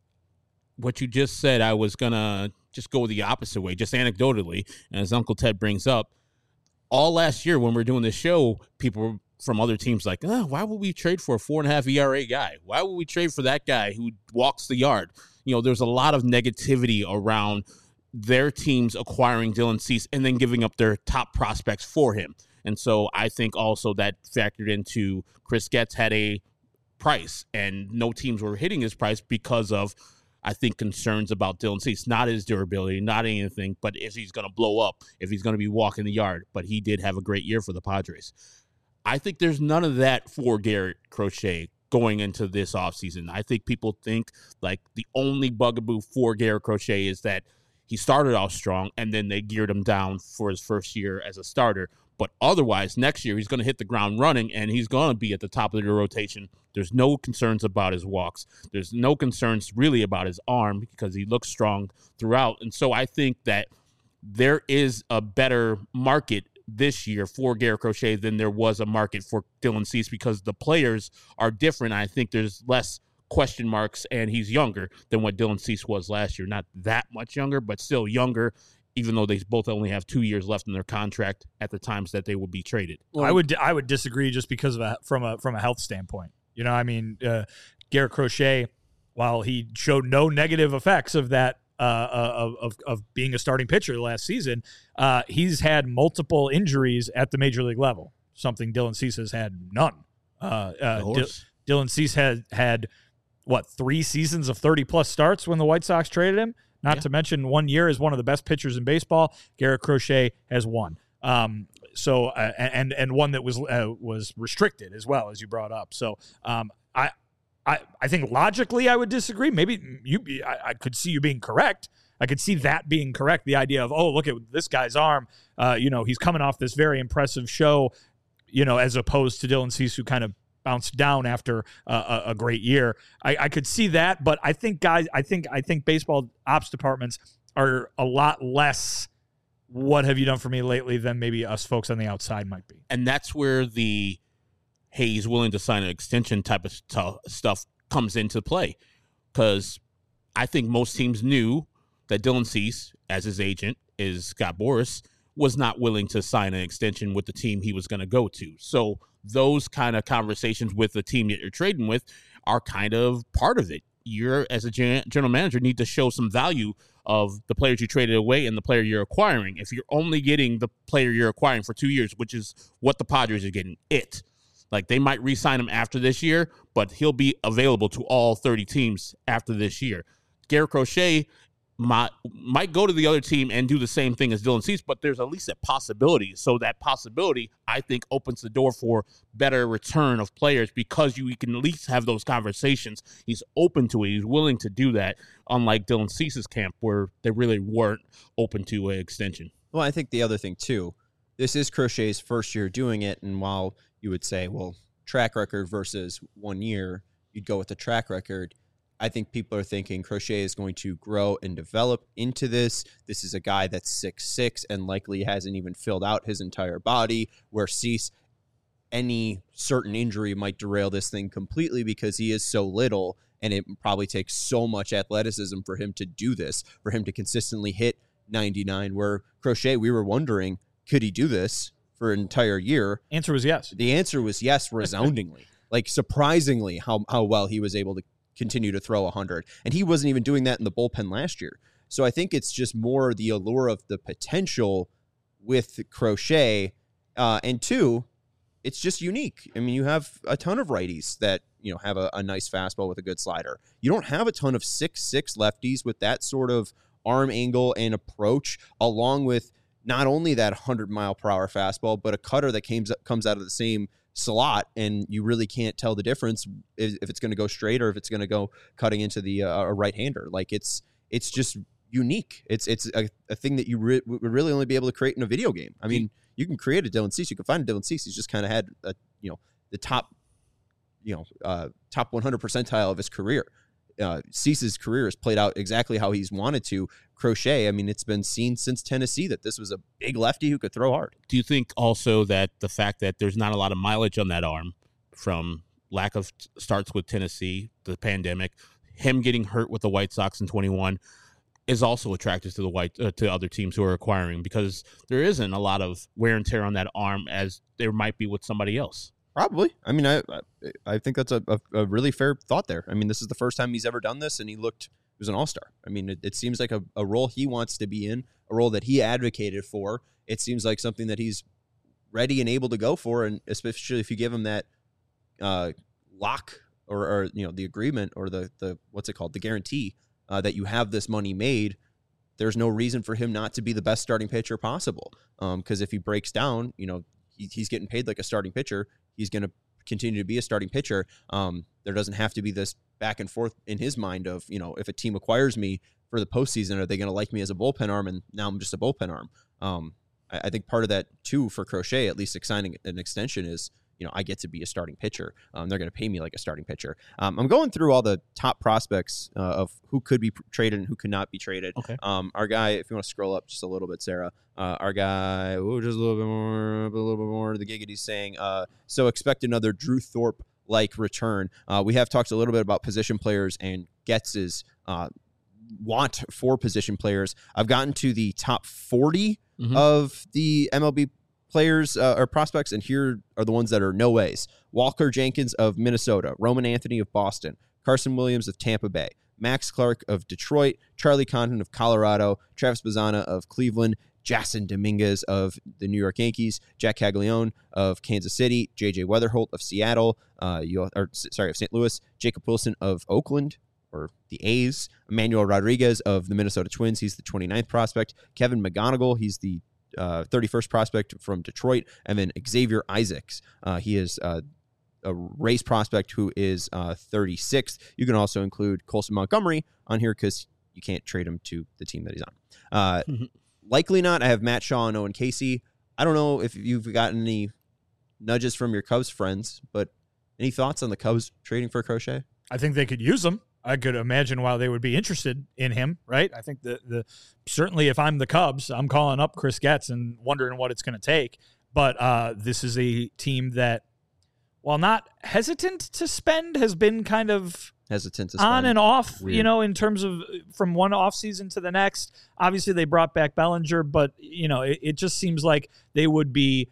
what you just said, I was going to just go the opposite way, just anecdotally, as Uncle Ted brings up. All last year when we were doing this show, people from other teams like, why would we trade for a 4.5 ERA guy? Why would we trade for that guy who walks the yard? There's a lot of negativity around their teams acquiring Dylan Cease and then giving up their top prospects for him. And so I think also that factored into Chris Getz had a price, and no teams were hitting his price because of, I think, concerns about Dylan Cease, not his durability, not anything, but if he's going to blow up, if he's going to be walking the yard. But he did have a great year for the Padres. I think there's none of that for Garrett Crochet going into this offseason. I think people think like the only bugaboo for Garrett Crochet is that he started off strong and then they geared him down for his first year as a starter. But otherwise, next year, he's going to hit the ground running, and he's going to be at the top of the rotation. There's no concerns about his walks. There's no concerns really about his arm because he looks strong throughout. And so I think that there is a better market this year for Garrett Crochet than there was a market for Dylan Cease because the players are different. I think there's less question marks, and he's younger than what Dylan Cease was last year. Not that much younger, but still younger, even though they both only have 2 years left in their contract at the times that they would be traded. Well, I would disagree just because of from a health standpoint. You know, I mean, Garrett Crochet, while he showed no negative effects of that of being a starting pitcher last season, he's had multiple injuries at the major league level, something Dylan Cease has had none. Dylan Cease had what, 3 seasons of 30-plus starts when the White Sox traded him? Not to mention 1 year as one of the best pitchers in baseball. Garrett Crochet has one. So and one that was restricted as well, as you brought up. So I think logically I would disagree. Maybe I could see you being correct. I could see that being correct. The idea of, oh, look at this guy's arm. He's coming off this very impressive show, as opposed to Dylan Cease, who kind of bounced down after a great year. I could see that, but I think baseball ops departments are a lot less what have you done for me lately than maybe us folks on the outside might be. And that's where the, hey, he's willing to sign an extension type of stuff comes into play. Because I think most teams knew that Dylan Cease, as his agent, is Scott Boras, was not willing to sign an extension with the team he was going to go to. So those kind of conversations with the team that you're trading with are kind of part of it. You're, as a general manager, need to show some value of the players you traded away and the player you're acquiring. If you're only getting the player you're acquiring for 2 years, which is what the Padres are getting, like they might re-sign him after this year, but he'll be available to all 30 teams after this year. Garrett Crochet might go to the other team and do the same thing as Dylan Cease, but there's at least a possibility. So that possibility, I think, opens the door for better return of players because you can at least have those conversations. He's open to it. He's willing to do that, unlike Dylan Cease's camp where they really weren't open to an extension. Well, I think the other thing, too, this is Crochet's first year doing it, and while you would say, well, track record versus 1 year, you'd go with the track record. I think people are thinking Crochet is going to grow and develop into this. This is a guy that's 6'6" and likely hasn't even filled out his entire body, where Cease, any certain injury might derail this thing completely because he is so little, and it probably takes so much athleticism for him to do this, for him to consistently hit 99, where Crochet, we were wondering, could he do this for an entire year? Answer was yes. The answer was yes, resoundingly. Like, surprisingly, how well he was able to continue to throw 100. And he wasn't even doing that in the bullpen last year. So I think it's just more the allure of the potential with Crochet. And two, it's just unique. I mean, you have a ton of righties that, have a nice fastball with a good slider. You don't have a ton of 6'6" lefties with that sort of arm angle and approach, along with not only that 100-mile-per-hour fastball, but a cutter that comes out of the same slot, and you really can't tell the difference if it's going to go straight or if it's going to go cutting into the a right-hander. Like, it's just unique. It's a thing that you would really only be able to create in a video game. I mean, you can create a Dylan Cease. You can find a Dylan Cease. He's just kind of had the top 100 percentile of his career. Cease's career has played out exactly how he's wanted to. Crochet, I mean, it's been seen since Tennessee that this was a big lefty who could throw hard. Do you think also that the fact that there's not a lot of mileage on that arm from lack of starts with Tennessee, the pandemic, him getting hurt with the White Sox in 21 is also attractive to to other teams who are acquiring, because there isn't a lot of wear and tear on that arm as there might be with somebody else? Probably. I mean, I think that's a really fair thought there. I mean, this is the first time he's ever done this, and he was an all-star. I mean, it seems like a role he wants to be in, a role that he advocated for. It seems like something that he's ready and able to go for, and especially if you give him that lock or the agreement or the what's it called, the guarantee that you have this money made. There's no reason for him not to be the best starting pitcher possible. Because if he breaks down, he's getting paid like a starting pitcher. He's going to continue to be a starting pitcher. There doesn't have to be this back and forth in his mind of, if a team acquires me for the postseason, are they going to like me as a bullpen arm? And now I'm just a bullpen arm. I think part of that too for Crochet, at least signing an extension, is, I get to be a starting pitcher. They're going to pay me like a starting pitcher. I'm going through all the top prospects of who could be traded and who could not be traded. Okay. Our guy, if you want to scroll up just a little bit, Sarah, our guy, just a little bit more, the Giggity's saying, so expect another Drew Thorpe like return. We have talked a little bit about position players and Getz's want for position players. I've gotten to the top 40 of the MLB players or prospects, and here are the ones that are no ways. Walker Jenkins of Minnesota, Roman Anthony of Boston, Carson Williams of Tampa Bay, Max Clark of Detroit, Charlie Condon of Colorado, Travis Bazzana of Cleveland, Jason Dominguez of the New York Yankees, Jack Caglione of Kansas City, J.J. Weatherholt of Seattle, of St. Louis, Jacob Wilson of Oakland, or the A's, Emmanuel Rodriguez of the Minnesota Twins, he's the 29th prospect, Kevin McGonigal, he's the 31st prospect from Detroit, and then Xavier Isaacs, he is a race prospect who is 36th. You can also include Colson Montgomery on here because you can't trade him to the team that he's on. Likely not. I have Matt Shaw and Owen Casey. I don't know if you've gotten any nudges from your Cubs friends, but any thoughts on the Cubs trading for Crochet? I think they could use him. I could imagine why they would be interested in him, right? I think the certainly if I'm the Cubs, I'm calling up Chris Getz and wondering what it's going to take. But this is a team that, while not hesitant to spend, has been kind of hesitant to spend. On and off, Weird. in terms of from one offseason to the next. Obviously, they brought back Bellinger, but, it just seems like they would be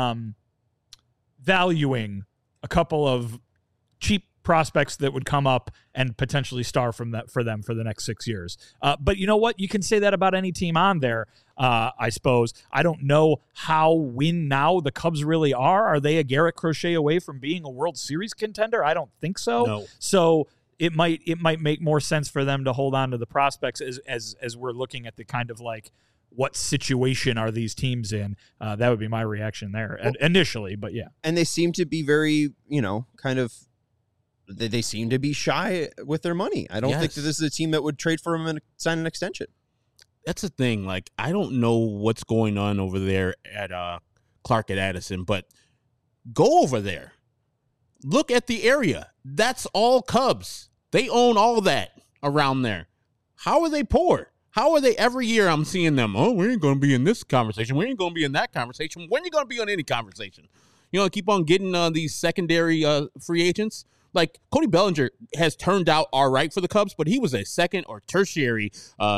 valuing a couple of cheap prospects that would come up and potentially star for them for the next 6 years. But you know what? You can say that about any team on there, I suppose. I don't know how win now the Cubs really are. Are they a Garrett Crochet away from being a World Series contender? I don't think so. No. So it might make more sense for them to hold on to the prospects as we're looking at the kind of like, what situation are these teams in? That would be my reaction there initially, but yeah. And they seem to be very, kind of, they seem to be shy with their money. I don't think that this is a team that would trade for him and sign an extension. That's the thing. Like, I don't know what's going on over there at Clark at Addison, but go over there. Look at the area. That's all Cubs. They own all that around there. How are they poor? How are they every year I'm seeing them? Oh, we ain't going to be in this conversation. We ain't going to be in that conversation. When are you going to be on any conversation? Keep on getting these secondary free agents. Like, Cody Bellinger has turned out all right for the Cubs, but he was a second or tertiary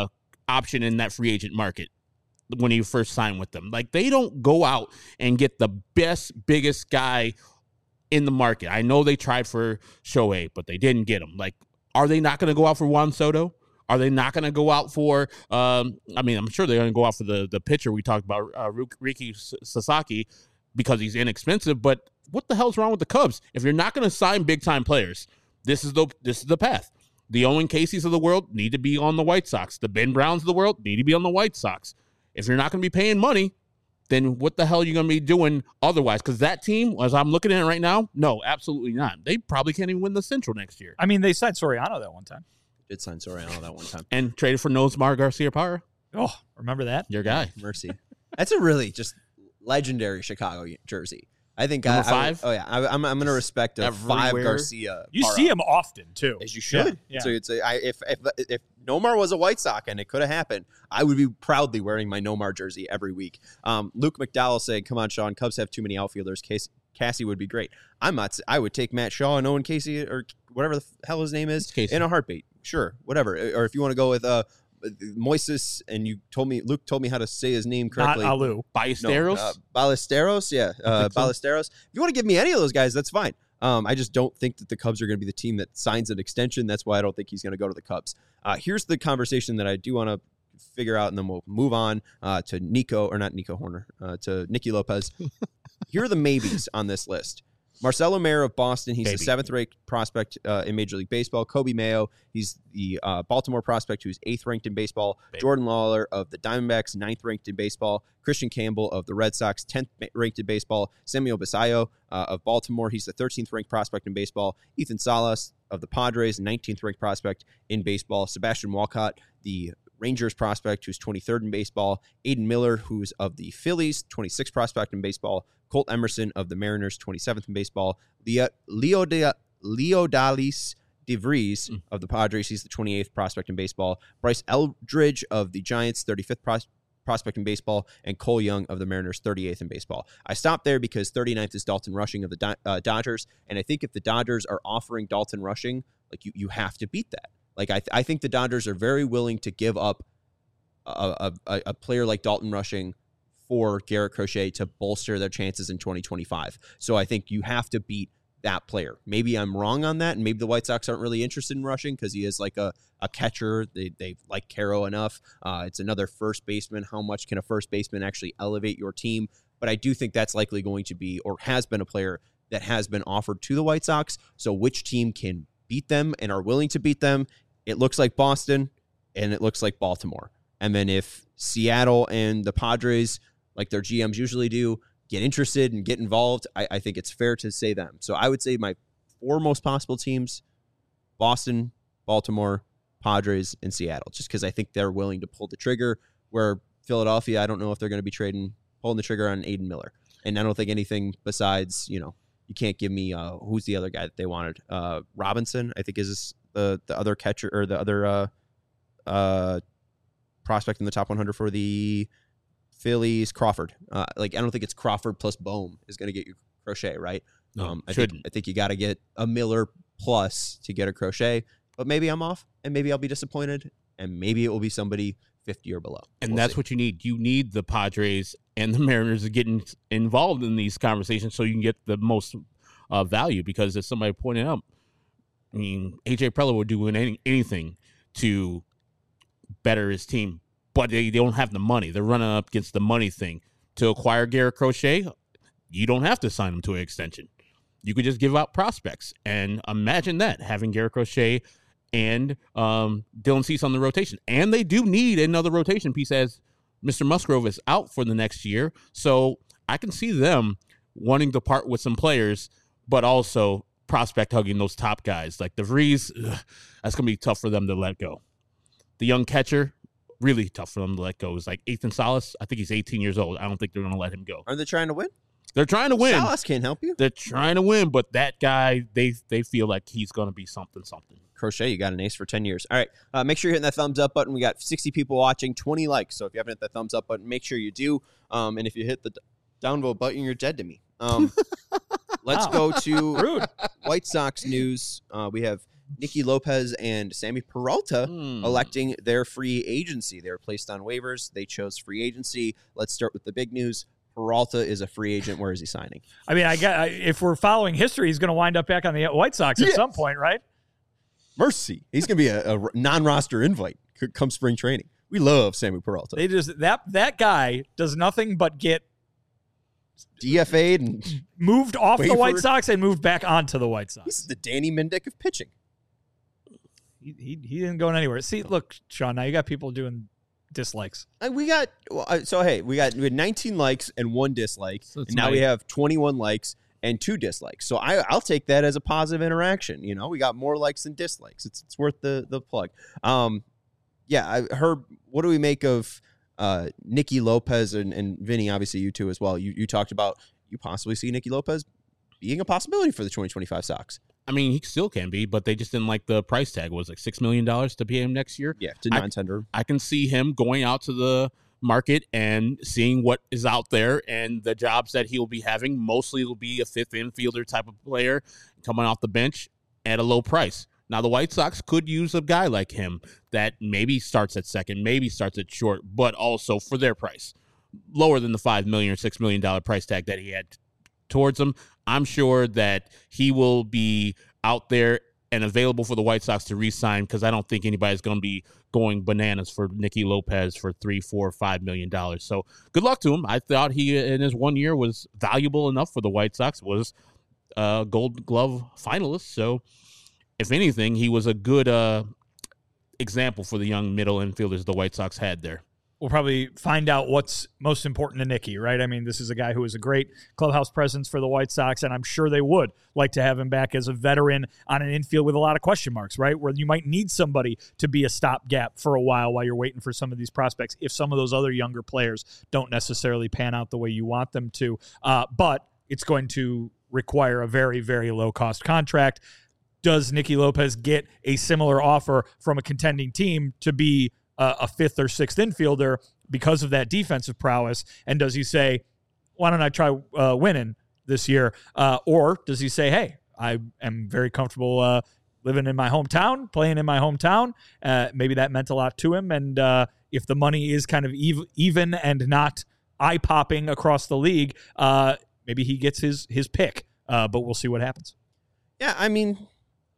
option in that free agent market when he first signed with them. Like, they don't go out and get the best, biggest guy in the market. I know they tried for Shohei, but they didn't get him. Like, are they not going to go out for Juan Soto? Are they not going to go out for, I'm sure they're going to go out for the pitcher we talked about, Riki Sasaki, because he's inexpensive, but what the hell's wrong with the Cubs? If you're not going to sign big-time players, this is the path. The Owen Caseys of the world need to be on the White Sox. The Ben Browns of the world need to be on the White Sox. If you're not going to be paying money, then what the hell are you going to be doing otherwise? Because that team, as I'm looking at it right now, no, absolutely not. They probably can't even win the Central next year. I mean, they signed Soriano that one time. Did sign Soriano that one time. And traded for Nosmar Garcia-Parra. Oh, remember that? Your guy. Mercy. That's a really just legendary Chicago jersey. I think Number 5? I'm going to respect a Everywhere. 5 Garcia. You see him often, too. As you should. Yeah. So if Nomar was a White Sox and it could have happened, I would be proudly wearing my Nomar jersey every week. Luke McDowell saying, "Come on, Sean. Cubs have too many outfielders. Cassie would be great." I would take Matt Shaw and Owen Casey or whatever the hell his name is in a heartbeat. Sure, whatever. Or if you want to go with Moises, and Luke told me how to say his name correctly. Not Alu. Ballesteros? Ballesteros, yeah. Ballesteros. If you want to give me any of those guys, that's fine. I just don't think that the Cubs are going to be the team that signs an extension. That's why I don't think he's going to go to the Cubs. Here's the conversation that I do want to figure out, and then we'll move on to Nicky Lopez. Here are the maybes on this list. Marcelo Mayer of Boston, he's the 7th-ranked prospect in Major League Baseball. Kobe Mayo, he's the Baltimore prospect who's 8th-ranked in baseball. Jordan Lawler of the Diamondbacks, 9th-ranked in baseball. Christian Campbell of the Red Sox, 10th-ranked in baseball. Samuel Basayo of Baltimore, he's the 13th-ranked prospect in baseball. Ethan Salas of the Padres, 19th-ranked prospect in baseball. Sebastian Walcott, the Rangers prospect, who's 23rd in baseball. Aiden Miller, who's of the Phillies, 26th prospect in baseball. Colt Emerson of the Mariners, 27th in baseball. Leodalis DeVries of the Padres, he's the 28th prospect in baseball. Bryce Eldridge of the Giants, 35th prospect in baseball, and Cole Young of the Mariners, 38th in baseball. I stopped there because 39th is Dalton Rushing of the Dodgers, and I think if the Dodgers are offering Dalton Rushing, like you have to beat that. Like I think the Dodgers are very willing to give up a player like Dalton Rushing for Garrett Crochet to bolster their chances in 2025. So I think you have to beat that player. Maybe I'm wrong on that, and maybe the White Sox aren't really interested in Rushing because he is like a catcher. They like Caro enough. It's another first baseman. How much can a first baseman actually elevate your team? But I do think that's likely going to be, or has been, a player that has been offered to the White Sox. So which team can beat them and are willing to beat them? It looks like Boston, and it looks like Baltimore. And then if Seattle and the Padres, like their GMs usually do, get interested and get involved, I think it's fair to say them. So I would say my 4 most possible teams: Boston, Baltimore, Padres, and Seattle, just because I think they're willing to pull the trigger, where Philadelphia, I don't know if they're going to be pulling the trigger on Aiden Miller. And I don't think anything besides, you can't give me, who's the other guy that they wanted? Robinson, I think, is the other catcher, or the other prospect in the top 100 for the Phillies. Crawford. I don't think it's Crawford plus Bohm is going to get you Crochet, right? No, I think you got to get a Miller plus to get a Crochet, but maybe I'm off, and maybe I'll be disappointed, and maybe it will be somebody 50 or below. And that's what you need. You need the Padres and the Mariners to get involved in these conversations so you can get the most value, because as somebody pointed out, I mean, AJ Preller would do anything to better his team, but they don't have the money. They're running up against the money thing. To acquire Garrett Crochet, you don't have to sign him to an extension. You could just give out prospects. And imagine that, having Garrett Crochet and Dylan Cease on the rotation. And they do need another rotation piece, as Mr. Musgrove is out for the next year. So I can see them wanting to part with some players, but also prospect hugging those top guys. Like DeVries, that's going to be tough for them to let go. The young catcher, really tough for them to let go. It's like Ethan Salas. I think he's 18 years old. I don't think they're going to let him go. Are they trying to win? They're trying to win. Salas can't help you. They're trying to win, but that guy, they feel like he's going to be something. Crochet, you got an ace for 10 years. All right, make sure you're hitting that thumbs up button. We got 60 people watching, 20 likes. So if you haven't hit that thumbs up button, make sure you do. And if you hit the downvote button, you're dead to me. Let's go to White Sox news. We have Nicky Lopez and Sammy Peralta electing their free agency. They were placed on waivers. They chose free agency. Let's start with the big news. Peralta is a free agent. Where is he signing? I mean, if we're following history, he's going to wind up back on the White Sox at some point, right? Mercy. He's going to be a non-roster invite come spring training. We love Sammy Peralta. They just that guy does nothing but get DFA'd and moved off the White Sox and moved back onto the White Sox. This is the Danny Mendick of pitching. He didn't go anywhere. See, look, Sean, now you got people doing dislikes. We had 19 likes and 1 dislike, and now we have 21 likes and 2 dislikes. So I'll take that as a positive interaction. We got more likes than dislikes. It's worth the plug. I heard. What do we make of Nicky Lopez and Vinny? Obviously, you two as well. You talked about you possibly see Nicky Lopez being a possibility for the 2025 Sox. I mean, he still can be, but they just didn't like the price tag. It was like $6 million to pay him next year. Yeah, to non-tender. I can see him going out to the market and seeing what is out there, and the jobs that he'll be having mostly will be a fifth infielder type of player coming off the bench at a low price. Now, the White Sox could use a guy like him that maybe starts at second, maybe starts at short, but also for their price, lower than the $5 million or $6 million price tag that he had towards him. I'm sure that he will be out there and available for the White Sox to re-sign, because I don't think anybody's going to be going bananas for Nicky Lopez for $3, $4, $5 million. So good luck to him. I thought he, in his 1 year, was valuable enough for the White Sox, was a Gold Glove finalist. So if anything, he was a good example for the young middle infielders the White Sox had there. We'll probably find out what's most important to Nicky, right? I mean, this is a guy who is a great clubhouse presence for the White Sox, and I'm sure they would like to have him back as a veteran on an infield with a lot of question marks, right? Where you might need somebody to be a stopgap for a while you're waiting for some of these prospects if some of those other younger players don't necessarily pan out the way you want them to. But it's going to require a very, very low-cost contract. Does Nicky Lopez get a similar offer from a contending team to be a fifth or sixth infielder because of that defensive prowess? And does he say, why don't I try winning this year? Or does he say, hey, I am very comfortable living in my hometown, playing in my hometown? Maybe that meant a lot to him. And if the money is kind of even and not eye-popping across the league, maybe he gets his pick. But we'll see what happens. Yeah, I mean,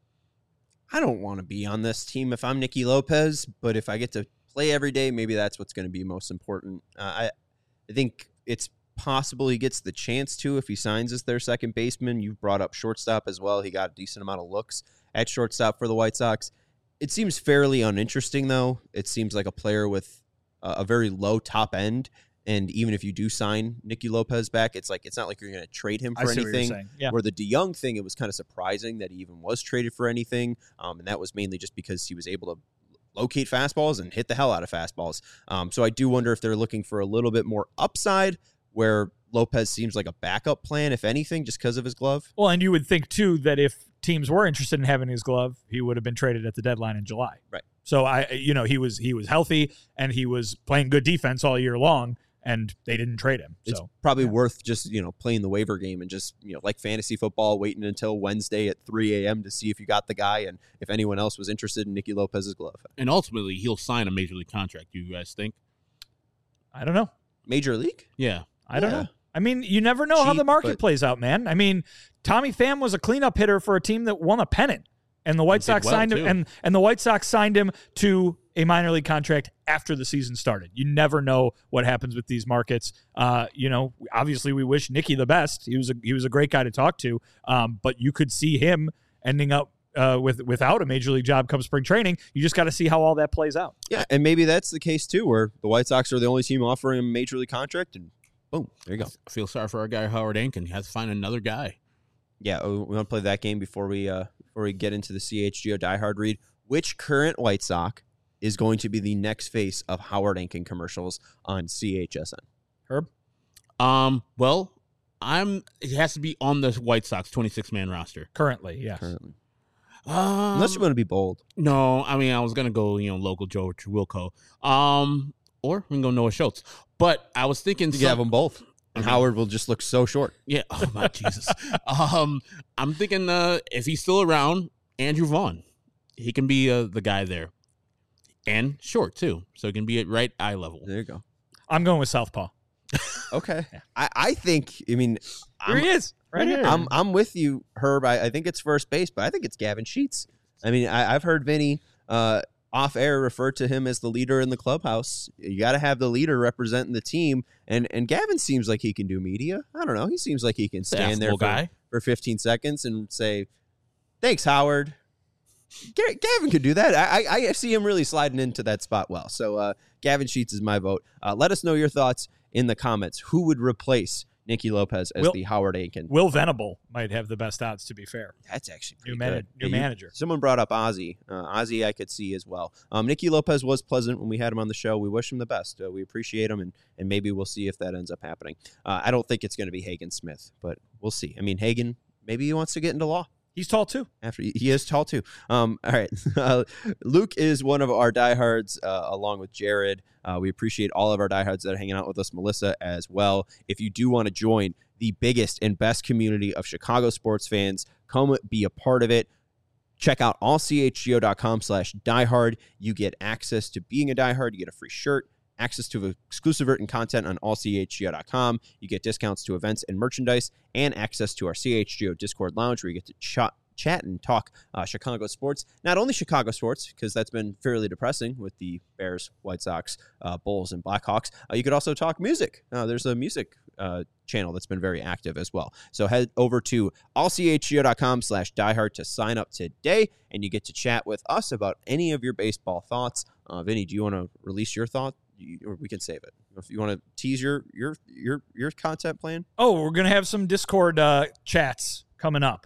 I don't want to be on this team if I'm Nicky Lopez, but if I get to play every day, maybe that's what's going to be most important. I think it's possible he gets the chance to if he signs as their second baseman. You've brought up shortstop as well. He got a decent amount of looks at shortstop for the White Sox. It seems fairly uninteresting, though. It seems like a player with a very low top end. And even if you do sign Nicky Lopez back, it's not like you're going to trade him for anything. Yeah. Where the DeYoung thing, it was kind of surprising that he even was traded for anything. And that was mainly just because he was able to locate fastballs and hit the hell out of fastballs. So I do wonder if they're looking for a little bit more upside, where Lopez seems like a backup plan, if anything, just because of his glove. Well, and you would think, too, that if teams were interested in having his glove, he would have been traded at the deadline in July. Right. So he was healthy and he was playing good defense all year long, and they didn't trade him. It's so probably worth just, playing the waiver game and just, like fantasy football, waiting until Wednesday at 3 a.m. to see if you got the guy and if anyone else was interested in Nicky Lopez's glove. And ultimately, he'll sign a major league contract, do you guys think? I don't know. Major league? Yeah. I don't know. I mean, you never know how the market plays out, man. I mean, Tommy Pham was a cleanup hitter for a team that won a pennant, and the White Sox signed him, and the White Sox signed him to a minor league contract after the season started. You never know what happens with these markets. Obviously we wish Nicky the best. He was a great guy to talk to. But you could see him ending up without a major league job come spring training. You just got to see how all that plays out. Yeah, and maybe that's the case too, where the White Sox are the only team offering him a major league contract, and boom, there you go. I feel sorry for our guy Howard Ankin. He has to find another guy. Yeah, we want to play that game before we get into the CHGO diehard read. Which current White Sox is going to be the next face of Howard Ankin commercials on CHSN? Herb? Well, it has to be on the White Sox 26-man roster. Currently, yes. Currently. Unless you want to be bold. No, I mean, I was going to go, local Joe Wilco. Or we can go Noah Schultz. But I was thinking... You have them both. And Howard will just look so short. Yeah. Oh, my Jesus. I'm thinking if he's still around, Andrew Vaughn. He can be the guy there. And short, too. So he can be at right eye level. There you go. I'm going with Southpaw. Okay. Yeah. I think, Here he is. Right here. I'm with you, Herb. I think it's first base, but I think it's Gavin Sheets. I mean, I've heard Vinny off air refer to him as the leader in the clubhouse. You got to have the leader representing the team. And Gavin seems like he can do media. I don't know. He seems like he can stand there for 15 seconds and say, thanks, Howard. Gavin could do that. I see him really sliding into that spot well. So Gavin Sheets is my vote. Let us know your thoughts in the comments. Who would replace Nicky Lopez as the Howard Ankin? Will Venable might have the best odds, to be fair. That's actually new manager. Someone brought up Ozzie. Ozzie I could see as well. Nicky Lopez was pleasant when we had him on the show. We wish him the best. We appreciate him, and maybe we'll see if that ends up happening. I don't think it's going to be Hagen Smith, but we'll see. I mean, Hagen, maybe he wants to get into law. He's tall, too. He is tall, too. All right. Luke is one of our diehards, along with Jared. We appreciate all of our diehards that are hanging out with us, Melissa, as well. If you do want to join the biggest and best community of Chicago sports fans, come be a part of it. Check out allchgo.com/diehard. You get access to being a diehard. You get a free shirt, access to exclusive written content on allchgo.com. You get discounts to events and merchandise, and access to our CHGO Discord lounge where you get to chat and talk Chicago sports. Not only Chicago sports, because that's been fairly depressing with the Bears, White Sox, Bulls, and Blackhawks. You could also talk music. There's a music channel that's been very active as well. So head over to allchgo.com/diehard to sign up today, and you get to chat with us about any of your baseball thoughts. Vinny, do you want to release your thought? Or we can save it. If you want to tease your content plan. Oh, we're gonna have some Discord chats coming up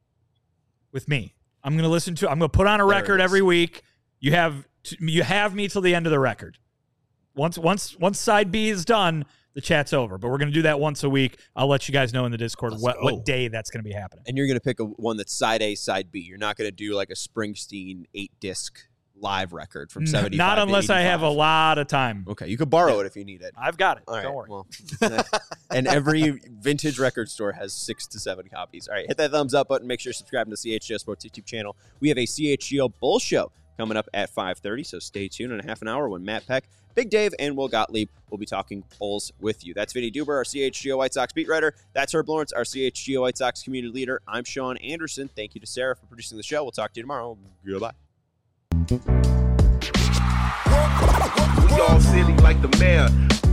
with me. I'm gonna put on a record every week. You have me till the end of the record. Once side B is done, the chat's over. But we're gonna do that once a week. I'll let you guys know in the Discord what day that's gonna be happening. And you're gonna pick one that's side A, side B. You're not gonna do like a Springsteen 8-disc live record from 75 Not to unless I have a 85. lot of time. Okay, you could borrow it if you need it. I've got it. All right, Don't worry. well, and every vintage record store has 6 to 7 copies. All right, hit that thumbs up button. Make sure you're subscribing to the CHGO Sports YouTube channel. We have a CHGO Bull Show coming up at 5:30, so stay tuned in a half an hour when Matt Peck, Big Dave, and Will Gottlieb will be talking Bulls with you. That's Vinny Duber, our CHGO White Sox beat writer. That's Herb Lawrence, our CHGO White Sox community leader. I'm Sean Anderson. Thank you to Sarah for producing the show. We'll talk to you tomorrow. Goodbye. We all silly like the mayor.